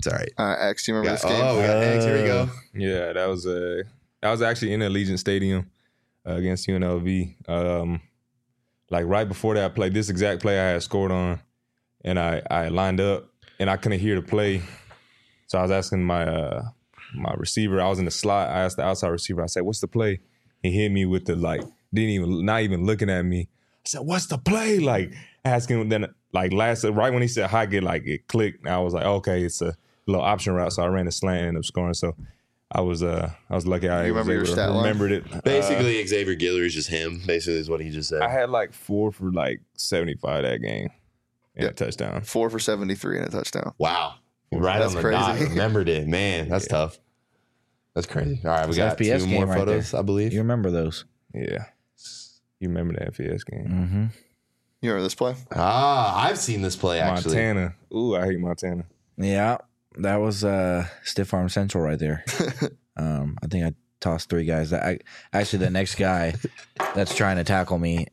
It's all right. X, do you remember this game? Oh, we got X. Here we go. Yeah, that was actually in Allegiant Stadium against UNLV. Like right before that play, this exact play I had scored on, and I lined up and I couldn't hear the play, so I was asking my my receiver. I was in the slot. I asked the outside receiver. I said, "What's the play?" He hit me with the not even looking at me. I said, "What's the play?" Like asking. Then right when he said hi, it clicked. And I was like, "Okay, it's a little option route." So I ran a slant and ended up scoring. So I was lucky I remember your stat line? remembered it. Basically, Xavier Guillory is just him. Basically, is what he just said. I had like 4 for like 75 that game and a touchdown. 4 for 73 and a touchdown. Wow. Right That's on the dot. crazy. Remembered it. Man, that's tough. That's crazy. All right, we It's got FPS 2 game more right photos, there. I believe. You remember those? Yeah. You remember the FES game? Mm-hmm. You remember this play? I've seen this play, actually. Montana. Ooh, I hate Montana. Yeah, that was Stiff Arm Central right there. I think I tossed 3 guys. Actually, the next guy that's trying to tackle me,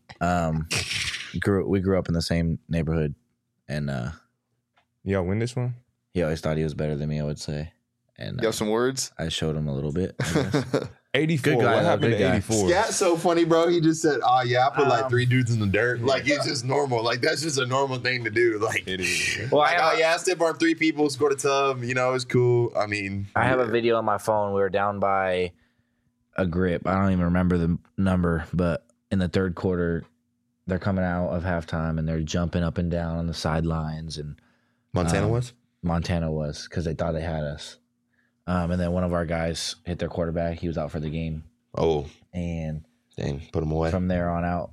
we grew up in the same neighborhood, and Y'all win this one? he always thought he was better than me, I would say. And You have some words? I showed him a little bit. I guess. 84. Good guy, What though, happened good to guy. 84? Scat's so funny, bro. He just said, "Oh yeah, I put like 3 dudes in the dirt." Like it's just normal. Like that's just a normal thing to do. Like, It is. Well, like, oh yeah, I stiff arm 3 people, scored a tub. You know, it's cool. I mean, I have a video on my phone. We were down by a grip. I don't even remember the number, but in the third quarter, they're coming out of halftime and they're jumping up and down on the sidelines. And Montana was. Montana was because they thought they had us. And then one of our guys hit their quarterback. He was out for the game. Oh, And dang, put him away. from there on out,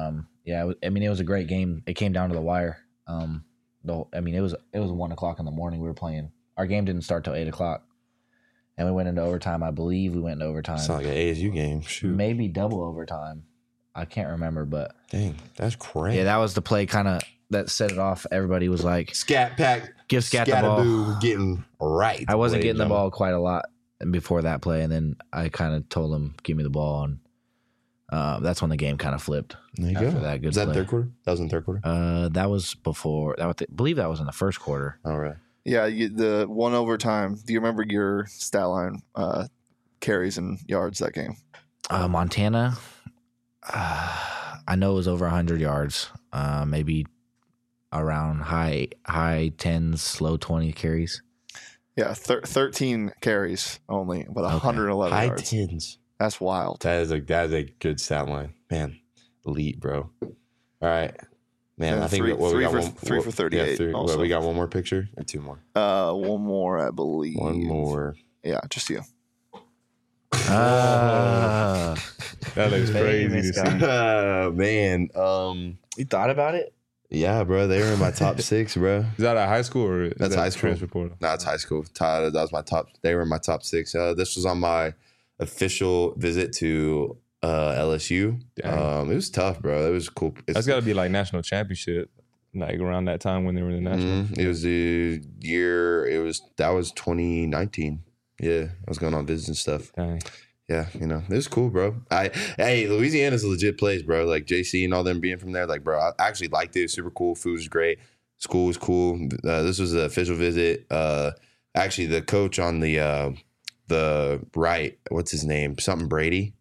it was a great game. It came down to the wire. It was 1 o'clock in the morning. We were playing. Our game didn't start till 8 o'clock, and we went into overtime. I believe we went into overtime. It's not like an ASU game. Shoot, Maybe double overtime. I can't remember, but dang, that's crazy. yeah, that was the play kind of that set it off. Everybody was like, Scat Pack, "Give Scat the ball." Scataboo getting right. I wasn't ladies getting the and ball quite a lot before that play, and then I kind of told him, "Give me the ball," and that's when the game kind of flipped. There you after go. that good Was that play. third quarter? That was in third quarter. That was before. I believe that was in the first quarter. All right. Yeah, the 1 overtime. Do you remember your stat line carries and yards that game? Montana, I know it was over 100 yards, maybe around high 10s, low 20 carries. Yeah, 13 carries only, but 111 High yards. 10s. That's wild. That is a good stat line, man. Elite, bro. All right, man. And I think three- we three got for- one. 3 for 38 Yeah, also. we got one more picture or 2 more. One more, I believe. One more. Yeah, just you. That looks crazy to Famous see. guy. Man. You thought about it? Yeah, bro. They were in my top 6, bro. Is that at high school or is That's that high school. transfer portal? No, it's high school. That was my top. They were in my top 6. This was on my official visit to LSU. Dang. It was tough, bro. It was cool. That's got to be like national championship, like around that time when they were in the national. It was the year. That was 2019. Yeah, I was going on visits and stuff. Dang. Yeah, it was cool, bro. Hey, Louisiana's a legit place, bro. Like JC and all them being from there, like, bro, I actually liked it. It was super cool. Food was great. School was cool. This was an official visit. Actually, the coach on the right, what's his name? Something Brady.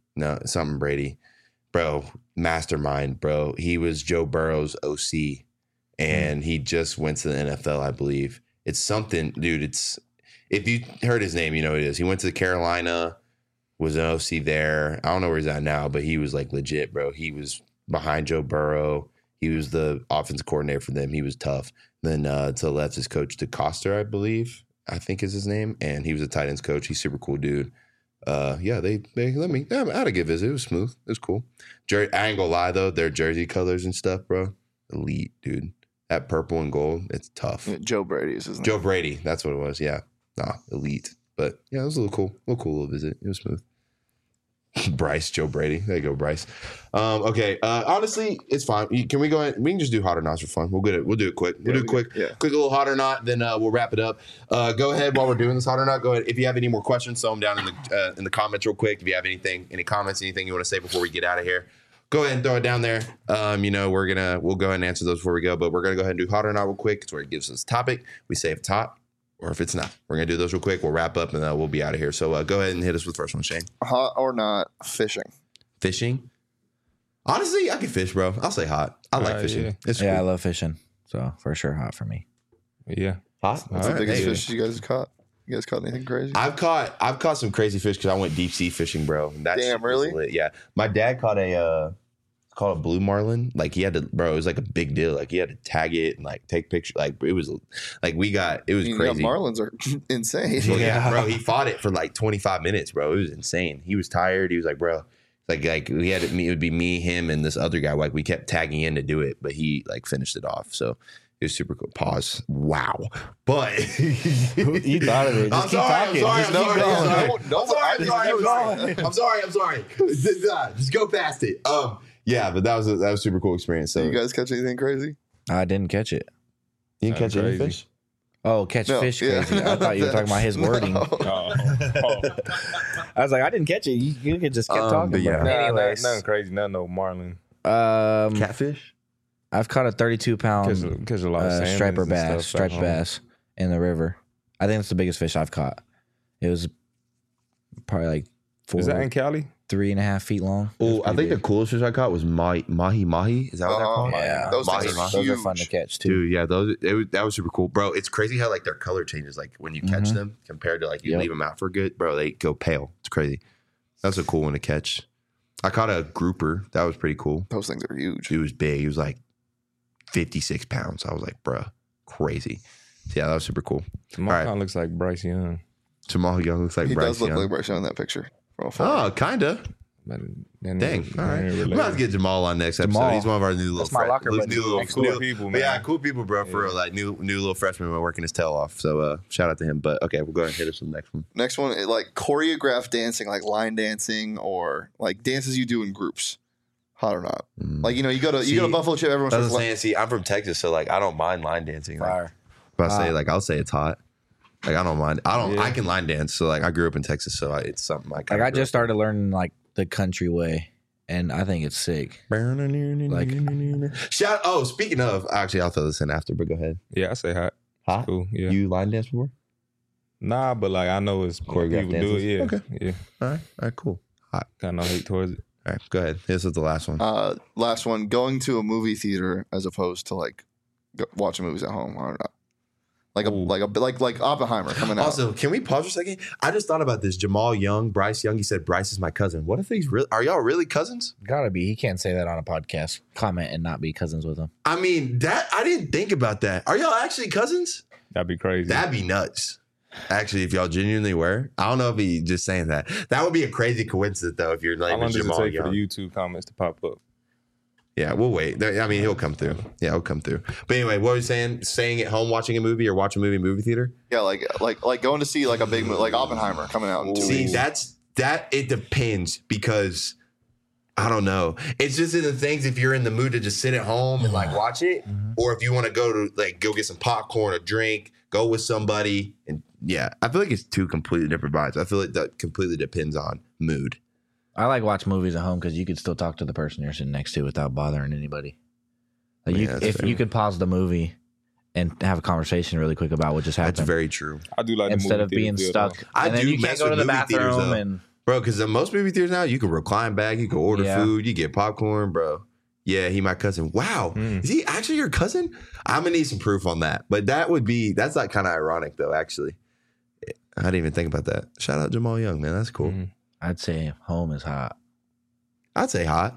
Bro, mastermind, bro. He was Joe Burrow's OC, and he just went to the NFL, I believe. It's something, dude. If you heard his name, you know what it is. He went to Carolina. Was an OC there. I don't know where he's at now, but he was like legit, bro. He was behind Joe Burrow. He was the offensive coordinator for them. He was tough. Then to the left is Coach DeCoster, I believe. I think is his name. And he was a tight ends coach. He's super cool dude. Yeah, they let me. I had a good visit. It was smooth. It was cool. I ain't gonna lie though, their jersey colors and stuff, bro. Elite, dude. That purple and gold, it's tough. Joe Brady is his name. Joe Brady, that's what it was. Yeah, elite. But yeah, it was a little cool little visit. It was smooth. Bryce, Joe Brady. There you go, Bryce. Okay. Honestly, it's fine. Can we go ahead? We can just do hot or not for fun. We'll do it quick. We'll do it quick. Yeah. Quick little hot or not. Then we'll wrap it up. Go ahead while we're doing this hot or not. Go ahead. If you have any more questions, throw them down in the comments real quick. If you have any comments, anything you want to say before we get out of here, go ahead and throw it down there. We'll go ahead and answer those before we go. But we're gonna go ahead and do hot or not real quick. It's where it gives us a topic. We say if it's hot or if it's not. We're gonna do those real quick. We'll wrap up and then we'll be out of here. So go ahead and hit us with the first one, Shane. Hot or not fishing? Fishing. Honestly, I can fish, bro. I'll say hot. I like fishing. Yeah. It's Yeah, I cool. love fishing. So for sure, hot for me. Yeah. Hot. What's All the right. biggest Hey, fish you guys caught? You guys caught anything crazy? I've caught some crazy fish because I went deep sea fishing, bro. And that Damn, shit was really? lit. Yeah. My dad caught it's called a blue marlin. Like he had to, bro. It was like a big deal. Like he had to tag it and like take pictures. Like it was, like it was crazy. Marlins are insane. Well, yeah, Yeah. bro. He fought it for like 25 minutes, bro. It was insane. He was tired. He was like, bro, like we had it would be me, him, and this other guy. Like we kept tagging in to do it, but he like finished it off. So it was super cool. Pause. Wow. But You thought of it. Just keep talking. I'm sorry. Just go past it. Yeah, but that was super cool experience. So You guys catch anything crazy? I didn't catch it. you didn't catch any Crazy. fish? Oh, catch No, fish yeah. crazy. I thought you were talking about his wording. No. I was like, I didn't catch it. You could just keep talking. but yeah. Bro. Anyways, Nothing crazy. Nothing no marlin. Catfish? I've caught a 32-pound Catch a lot of striper salmons and bass, stuff back striped home. bass in the river. I think it's the biggest fish I've caught. It was probably like Is that in Cali? 3.5 feet long. It was Oh, I pretty think the big. coolest fish I caught was mahi. Is that what they're called? Yeah. Those Mahi, things are mahi. Those huge. are fun to catch too. Dude, yeah, that was super cool, bro. It's crazy how like their color changes, like when you catch Mhm. them compared to like you Yep. leave them out for good, bro. They go pale. It's crazy. That's a cool one to catch. I caught a grouper. That was pretty cool. Those things are huge. It was big. It was like 56 pounds. I was like, bro, crazy. Yeah, that was super cool. Jamal All right. kind of looks like Bryce Young. Jamal Young looks like He Bryce does look Young. like Bryce Young in that picture. From afar. Oh, kinda. But then Dang. All right. We're about to get Jamal on next episode. Jamal. He's one of our new little That's my locker buddy. new little Cool people, man. Yeah, cool people, bro. For real, like new little freshman working his tail off. So shout out to him. But okay, we'll go ahead and hit us with the next one. Next one, like choreographed dancing, like line dancing or like dances you do in groups. Hot or not? Like you go to Buffalo Chip. Everyone's I was like, saying, see, I'm from Texas, so like I don't mind line dancing. Like, Fire. if I say like I'll say it's hot. Like I don't mind. I can line dance. So like I grew up in Texas, so it's something Like I just started learning like the country way, and I think it's sick. Shout. Oh, speaking of, actually, I'll throw this in after. But go ahead. Yeah, I say hot. Hot. Cool. Yeah. You line dance before? Nah, but like I know it's Choreographed people do it. Yeah. dances? Yeah. All right, cool. Hot. Got no hate towards it. All right, go ahead. This is the last one. last one, going to a movie theater as opposed to like watching movies at home. Hot or not? Like Oppenheimer coming out. Also, can we pause for a second? I just thought about this. Jamal Young, Bryce Young. He said Bryce is my cousin. What if he's real? Are y'all really cousins? Gotta be. He can't say that on a podcast. Comment and not be cousins with him. I mean, that I didn't think about that. Are y'all actually cousins? That'd be crazy. That'd be nuts. Actually, if y'all genuinely were, I don't know if he just saying that. That would be a crazy coincidence, though. If you're How like long does it Jamal take for Young. the YouTube comments to pop up? Yeah, we'll wait. I mean, he'll come through. Yeah, he'll come through. But anyway, what were you saying? Staying at home watching a movie or watching a movie in movie theater? Yeah, like going to see like a big movie, like Oppenheimer coming out in 2 See, weeks. it depends because I don't know. It's just in the things if you're in the mood to just sit at home and like watch it, or if you want to go get some popcorn or drink, go with somebody, and yeah, I feel like it's two completely different vibes. I feel like that completely depends on mood. I like watch movies at home because you could still talk to the person you're sitting next to without bothering anybody. Like Yeah, that's if fair. you could pause the movie and have a conversation really quick about what just happened, That's very true, I do like instead the of movie being theater stuck. feel, I and then do you can't mess go to with the movie theaters, bathroom though. and bro. Because most movie theaters now, you can recline back, you can order Yeah. food, you get popcorn, bro. Yeah, he my cousin. Wow, is he actually your cousin? I'm gonna need some proof on that. But that's like kind of ironic though. Actually, I didn't even think about that. Shout out Jamal Young, man. That's cool. Mhm. I'd say home is hot. I'd say hot.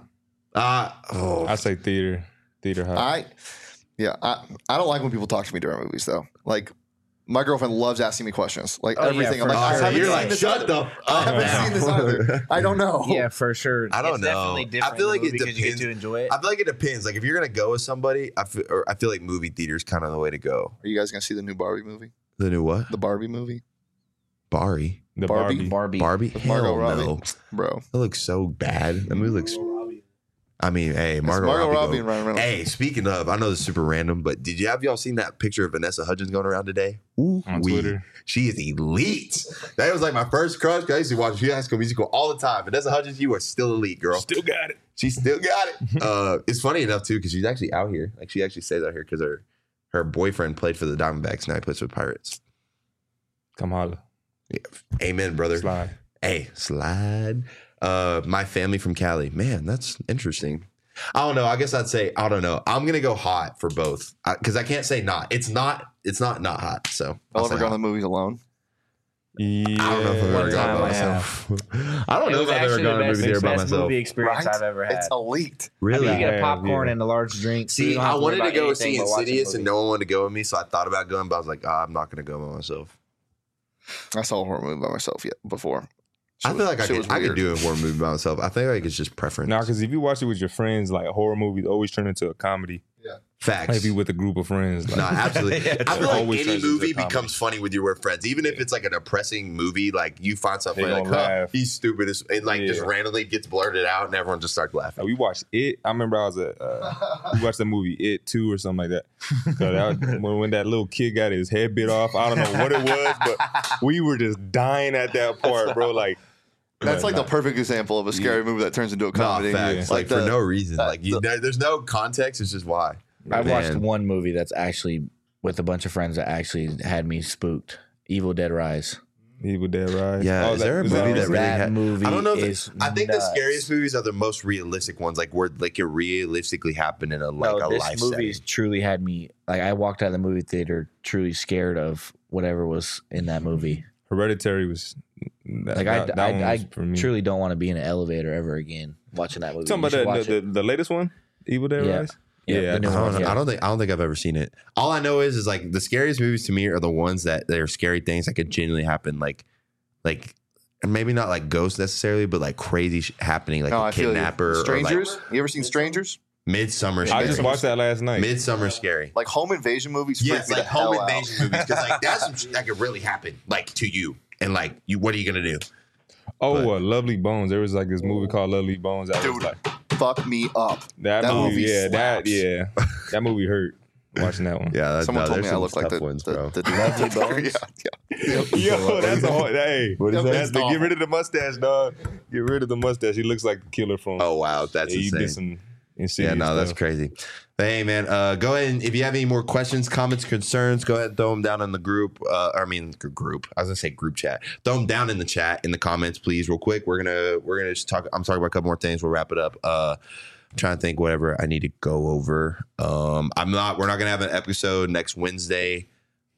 I say theater hot. I don't like when people talk to me during movies though. Like my girlfriend loves asking me questions, like Oh, yeah, everything. I'm for like, I sure. haven't You're seen like, this shut either. the I haven't up. seen this either. I don't know. Yeah, for sure. I don't It's know. Definitely different. I feel like it because you get depends. to enjoy it. I feel like it depends. Like if you're gonna go with somebody, I feel like movie theater's kind of the way to go. Are you guys gonna see the new Barbie movie? The new what? The Barbie movie, Barbie. The Barbie. Barbie. Barbie. With Margot Hell Robbie. no. bro. That looks so bad. That movie looks. I mean, hey, Margot Robbie. and Ryan Reynolds. Hey, speaking of, I know this is super random, but have y'all seen that picture of Vanessa Hudgens going around today? Ooh, On Twitter. She is elite. That was like my first crush. 'Cause I used to watch High School Musical all the time. Vanessa Hudgens, you are still elite, girl. Still got it. She still got it. It's funny enough too because she's actually out here. Like she actually stays out here because her boyfriend played for the Diamondbacks. Now he plays for the Pirates. Come holler. Amen, brother. Slide. Hey, slide. My family from Cali. Man, that's interesting. I don't know. I guess I'd say I don't know. I'm gonna go hot for both because I can't say not. It's not not hot. So I'll ever go to the movies alone. Yeah. I don't know if I've ever gone by myself. I don't know if I've ever gone to a movie theater by myself. Movie experience I've ever had. It's elite. Really? You get a popcorn and a large drink. so you See, don't have I to worry wanted to about go see anything but watching Insidious, the and movie. no one wanted to go with me, so I thought about going, but I was like, I'm not going to go by myself. I saw a horror movie by myself before. I feel like I Shit was could weird. do a horror movie by myself. I think like it's just preference. Nah, because if you watch it with your friends, like horror movies always turn into a comedy. Facts. Maybe with a group of friends. Like, No, absolutely. Yeah, I feel like always any turns into movie a comedy. becomes funny with your friends, even if it's like a depressing movie. Like you find something They like, gonna laugh. he's stupid, and like just Yeah. randomly gets blurted out, and everyone just starts laughing. we watched It. I remember I was at, we watched the movie It 2 or something like that. So that when that little kid got his head bit off, I don't know what it was, but we were just dying at that part, bro. Like, That's like the perfect example of a scary movie that turns into a comedy. No, facts. Yeah. Like for the- no reason. that- Like there's no context. It's just why. I watched Man. one movie that's actually with a bunch of friends that actually had me spooked. Evil Dead Rise. Evil Dead Rise. Yeah, is there a movie that recent? really that had- movie I don't know. is I think the nuts. scariest movies are the most realistic ones, like where like it realistically happened in a like No, a this life movie setting. truly had me like I walked out of the movie theater truly scared of whatever was in that movie. Hereditary was that, Like that one I was for me. truly don't want to be in an elevator ever again watching that movie. Talking You about should watch it. the latest one, Evil Dead Yeah. Rise. Yeah, the new I don't, one, know. yeah. I don't think I've ever seen it. All I know is like the scariest movies to me are the ones that they're scary things that could genuinely happen, like and maybe not like ghosts necessarily, but like crazy happening, like No, a I feel you. kidnapper. Strangers? Or You ever seen Strangers? like Midsummer. I just watched that last night. Midsummer scary. Like home invasion movies? Yes, freak me like the hell home out. invasion movies because like that's some shit that could really happen, like to you, and like you. What are you gonna do? Lovely Bones. There was like this movie called Lovely Bones. That was Dude, like fuck me up. that that movie. movie Yeah, slaps. that movie hurt. Watching that one. Yeah, that's, Someone told me there's I some look like tough the ones, bro. Lovely Bones? Yo, that's a hard. Hey, What is that's that? get rid of the mustache, dog. Get rid of the mustache. He looks like the killer from. Oh wow, that's yeah, he did insane. some insidious Yeah, no, that's stuff. crazy. But hey, man, go ahead and if you have any more questions, comments, concerns, go ahead and throw them down in the group. Group. I was gonna say group chat. Throw them down in the chat in the comments, please, real quick. We're gonna just talk. I'm talking about a couple more things. We'll wrap it up. I'm trying to think whatever I need to go over. We're not gonna have an episode next Wednesday.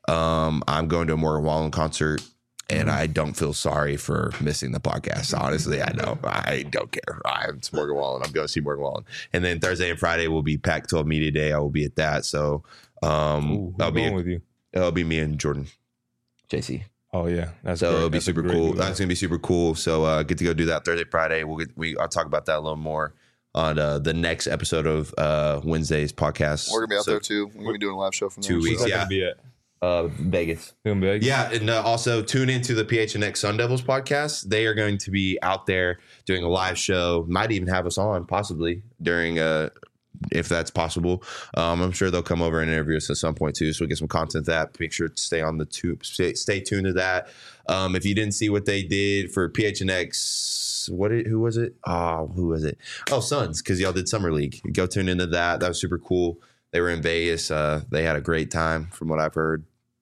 I'm going to a Morgan Wallen concert. And I don't feel sorry for missing the podcast. Honestly, I know. I don't care. It's Morgan Wallen. I'm going to see Morgan Wallen. And then Thursday and Friday will be Pac-12 Media Day. I will be at that. So Ooh, that'll be with you. it'll be me and Jordan, JC. Oh yeah, that's So great. it'll be That's a super great cool. movie. That's gonna be super cool. So get to go do that Thursday, Friday. I'll talk about that a little more on the next episode of Wednesday's podcast. We're going to be out So, there too. We're going to be doing a live show from there. 2 weeks. Where's that Yeah. gonna be at? Vegas. In Vegas? Yeah, and also tune into the PHNX Sun Devils podcast. They are going to be out there doing a live show. Might even have us on possibly during if that's possible. I'm sure they'll come over and interview us at some point too. So we get some content that. Make sure to stay on the tube. Stay tuned to that. If you didn't see what they did for PHNX, who was it? Who was it? Oh, Suns, because y'all did Summer League. Go tune into that. That was super cool. They were in Vegas. They had a great time from what I've heard.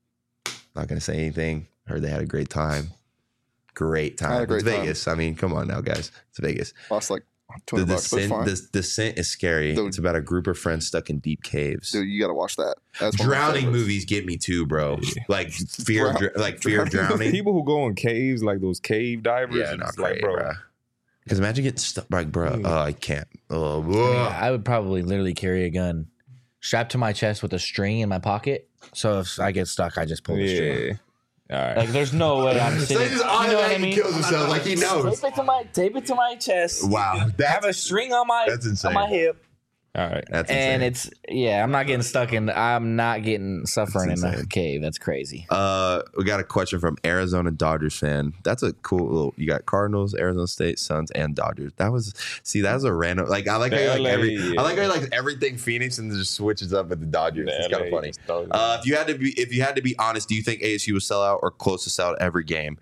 Not going to say anything. Heard they had a great time. Great time. I had a great It's time. Vegas. I mean, come on now, guys. It's Vegas. Lost like The $20 bucks, but it's fine. descent is scary. Dude. It's about a group of friends stuck in deep caves. Dude, you got to watch that. That's one of my Drowning favorites. movies get me too, bro. Yeah. Like fear, fear of Drowning drowning. People who go in caves, like those cave divers, Yeah, and not it's like, great, bro. bro. Because imagine getting stuck, like, bro. Mm. I can't. Oh, Yeah, I would probably literally carry a gun strapped to my chest with a string in my pocket. So if I get stuck, I just pull the string. Yeah. All right. Like there's no way I'm So sitting. he just You know what I automatically mean? kills himself like he knows. Tape it to my chest. Wow, Have that's a string on my that's insane. hip, All right. That's and insane. I'm not getting stuck in. I'm not getting suffering in That's a insane. cave. That's crazy. We got a question from Arizona Dodgers fan. That's a cool little. You got Cardinals, Arizona State, Suns, and Dodgers. That was a random. Like I like how you like LA, I like how you like everything Phoenix and just switches up with the Dodgers. It's kind of funny. If you had to be honest, do you think ASU will sell out or close to sell out every game?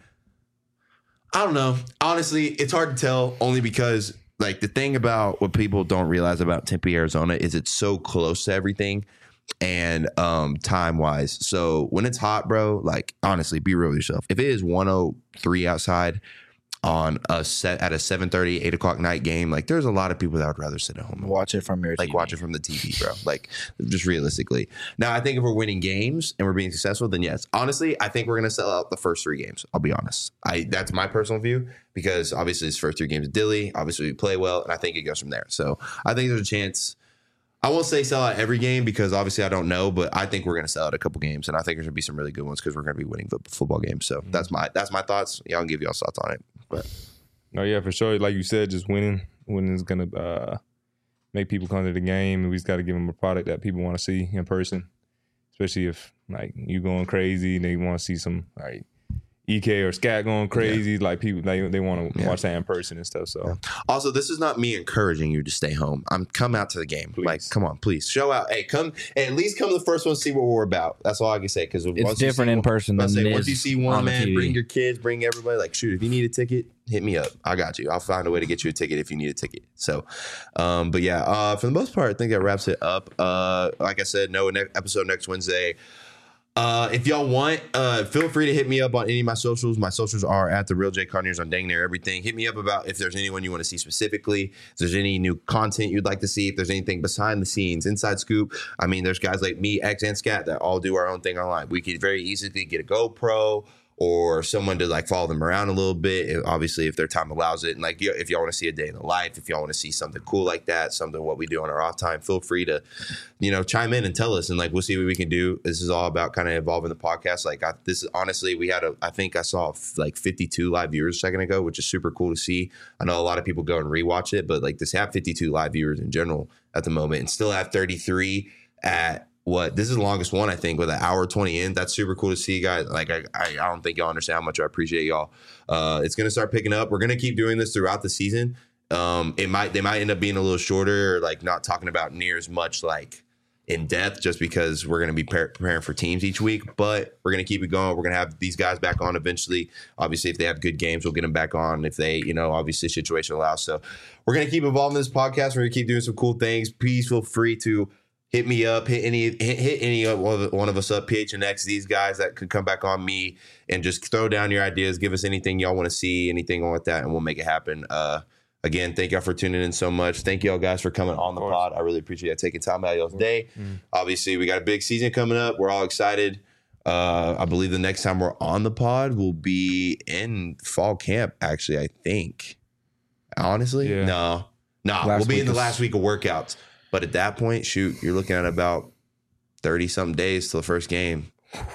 I don't know. Honestly, it's hard to tell. Only because like the thing about what people don't realize about Tempe, Arizona, is it's so close to everything and time wise. So when it's hot, bro, like honestly, be real with yourself. If it is 103 outside on a set at a 7:30, 8 o'clock night game, like there's a lot of people that would rather sit at home and Watch it from your like TV. watch it from the TV, bro. Like just realistically. Now I think if we're winning games and we're being successful, then yes. Honestly, I think we're gonna sell out the first 3 games. I'll be honest. That's my personal view because obviously his first 3 games of Dilly. Obviously we play well, and I think it goes from there. So I think there's a chance. I won't say sell out every game because obviously I don't know, but I think we're going to sell out a couple games, and I think there's going to be some really good ones because we're going to be winning football games. So that's my thoughts. Y'all can give y'all thoughts on it. But No, yeah, for sure. Like you said, just winning is gonna make people come to the game, and we just got to give them a product that people want to see in person. Especially if like you going crazy, and they want to see some like EK or Scat going crazy. Like people, they want to watch that in person and stuff. So also, this is not me encouraging you to stay home. Come out to the game. Please. Like, come on, please show out. Hey, come at least come to the first one, see what we're about. That's all I can say because It's different in person than it once you is see one, on the man, TV. bring your kids, bring everybody. Like, shoot, if you need a ticket, hit me up. I got you. I'll find a way to get you a ticket if you need a ticket. So, but yeah, for the most part, I think that wraps it up. Like I said, no episode next Wednesday. If y'all want, feel free to hit me up on any of my socials. My socials are at The Real J Carniers on dang near everything. Hit me up about if there's anyone you want to see specifically, if there's any new content you'd like to see, if there's anything behind the scenes, inside scoop. I mean, there's guys like me, X, and Scat that all do our own thing online. We could very easily get a GoPro or someone to like follow them around a little bit. Obviously, if their time allows it. And like, if y'all want to see a day in the life, if y'all want to see something cool like that, something what we do on our off time, feel free to, chime in and tell us. And like, we'll see what we can do. This is all about kind of evolving the podcast. Like this is honestly, I think I saw like 52 live viewers a second ago, which is super cool to see. I know a lot of people go and rewatch it, but like this have 52 live viewers in general at the moment and still have 33 at this is the longest one, I think, with an hour 20 in. That's super cool to see, guys. Like, I don't think y'all understand how much I appreciate y'all. It's going to start picking up. We're going to keep doing this throughout the season. They might end up being a little shorter or like not talking about near as much like in depth just because we're going to be preparing for teams each week, but we're going to keep it going. We're going to have these guys back on eventually. Obviously, if they have good games, we'll get them back on if they, obviously situation allows. So we're going to keep evolving this podcast. We're going to keep doing some cool things. Please feel free to hit me up, hit any one of us up, PHNX, these guys that could come back on me and just throw down your ideas. Give us anything y'all want to see, anything like that, and we'll make it happen. Again, thank y'all for tuning in so much. Thank y'all guys for coming on the pod. I really appreciate you taking time out of y'all's day. Obviously, we got a big season coming up. We're all excited. I believe the next time we're on the pod will be in fall camp, actually, I think. Honestly? Yeah. No, we'll be in the last week of workouts. But at that point, shoot, you're looking at about 30-something days till the first game.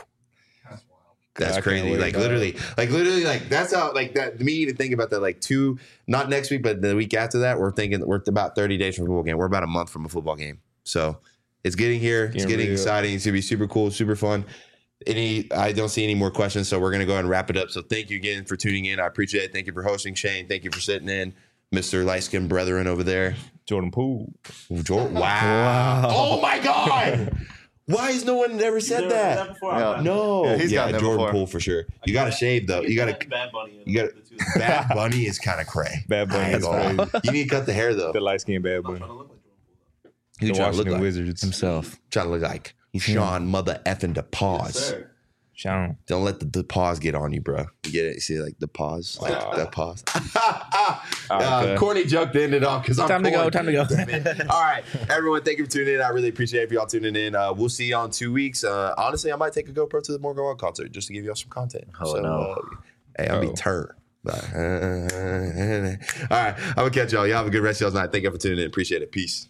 That's crazy. Like literally, that's how, like that, me to think about that, like not next week, but the week after that, we're thinking we're about 30 days from a football game. We're about a month from a football game. So it's getting here. It's getting exciting. It's going to be super cool, super fun. I don't see any more questions, so we're going to go ahead and wrap it up. So thank you again for tuning in. I appreciate it. Thank you for hosting, Shane. Thank you for sitting in. Mr. Light-Skinned Brethren over there. Jordan Poole. Wow. Oh, my God. Why has no one ever said that? No. Yeah, he's gotten that Jordan before. Poole for sure. You got to shave, though. You got to. Bad Bunny. Bad Bunny is kind of cray. Bad Bunny is crazy. You need to cut the hair, though. The light skinned Bad Bunny. Trying to look like Jordan Poole. Who The trying to look Washington like? Wizards himself. Trying to look like Sean mother effing DePause. Sir. Sean. Don't let the pause get on you, bro. You get it? You see, like the pause, like that pause. Okay. Corny joke to end it off because I'm Time to go. corny. Time to go. All right, everyone, thank you for tuning in. I really appreciate it for y'all tuning in. We'll see y'all in 2 weeks. Honestly, I might take a GoPro to the Morgan Wallen concert just to give y'all some content. Oh, no. Hey, I'll be turned. All right, I'm gonna catch y'all. Y'all have a good rest of y'all's night. Thank you for tuning in. Appreciate it. Peace.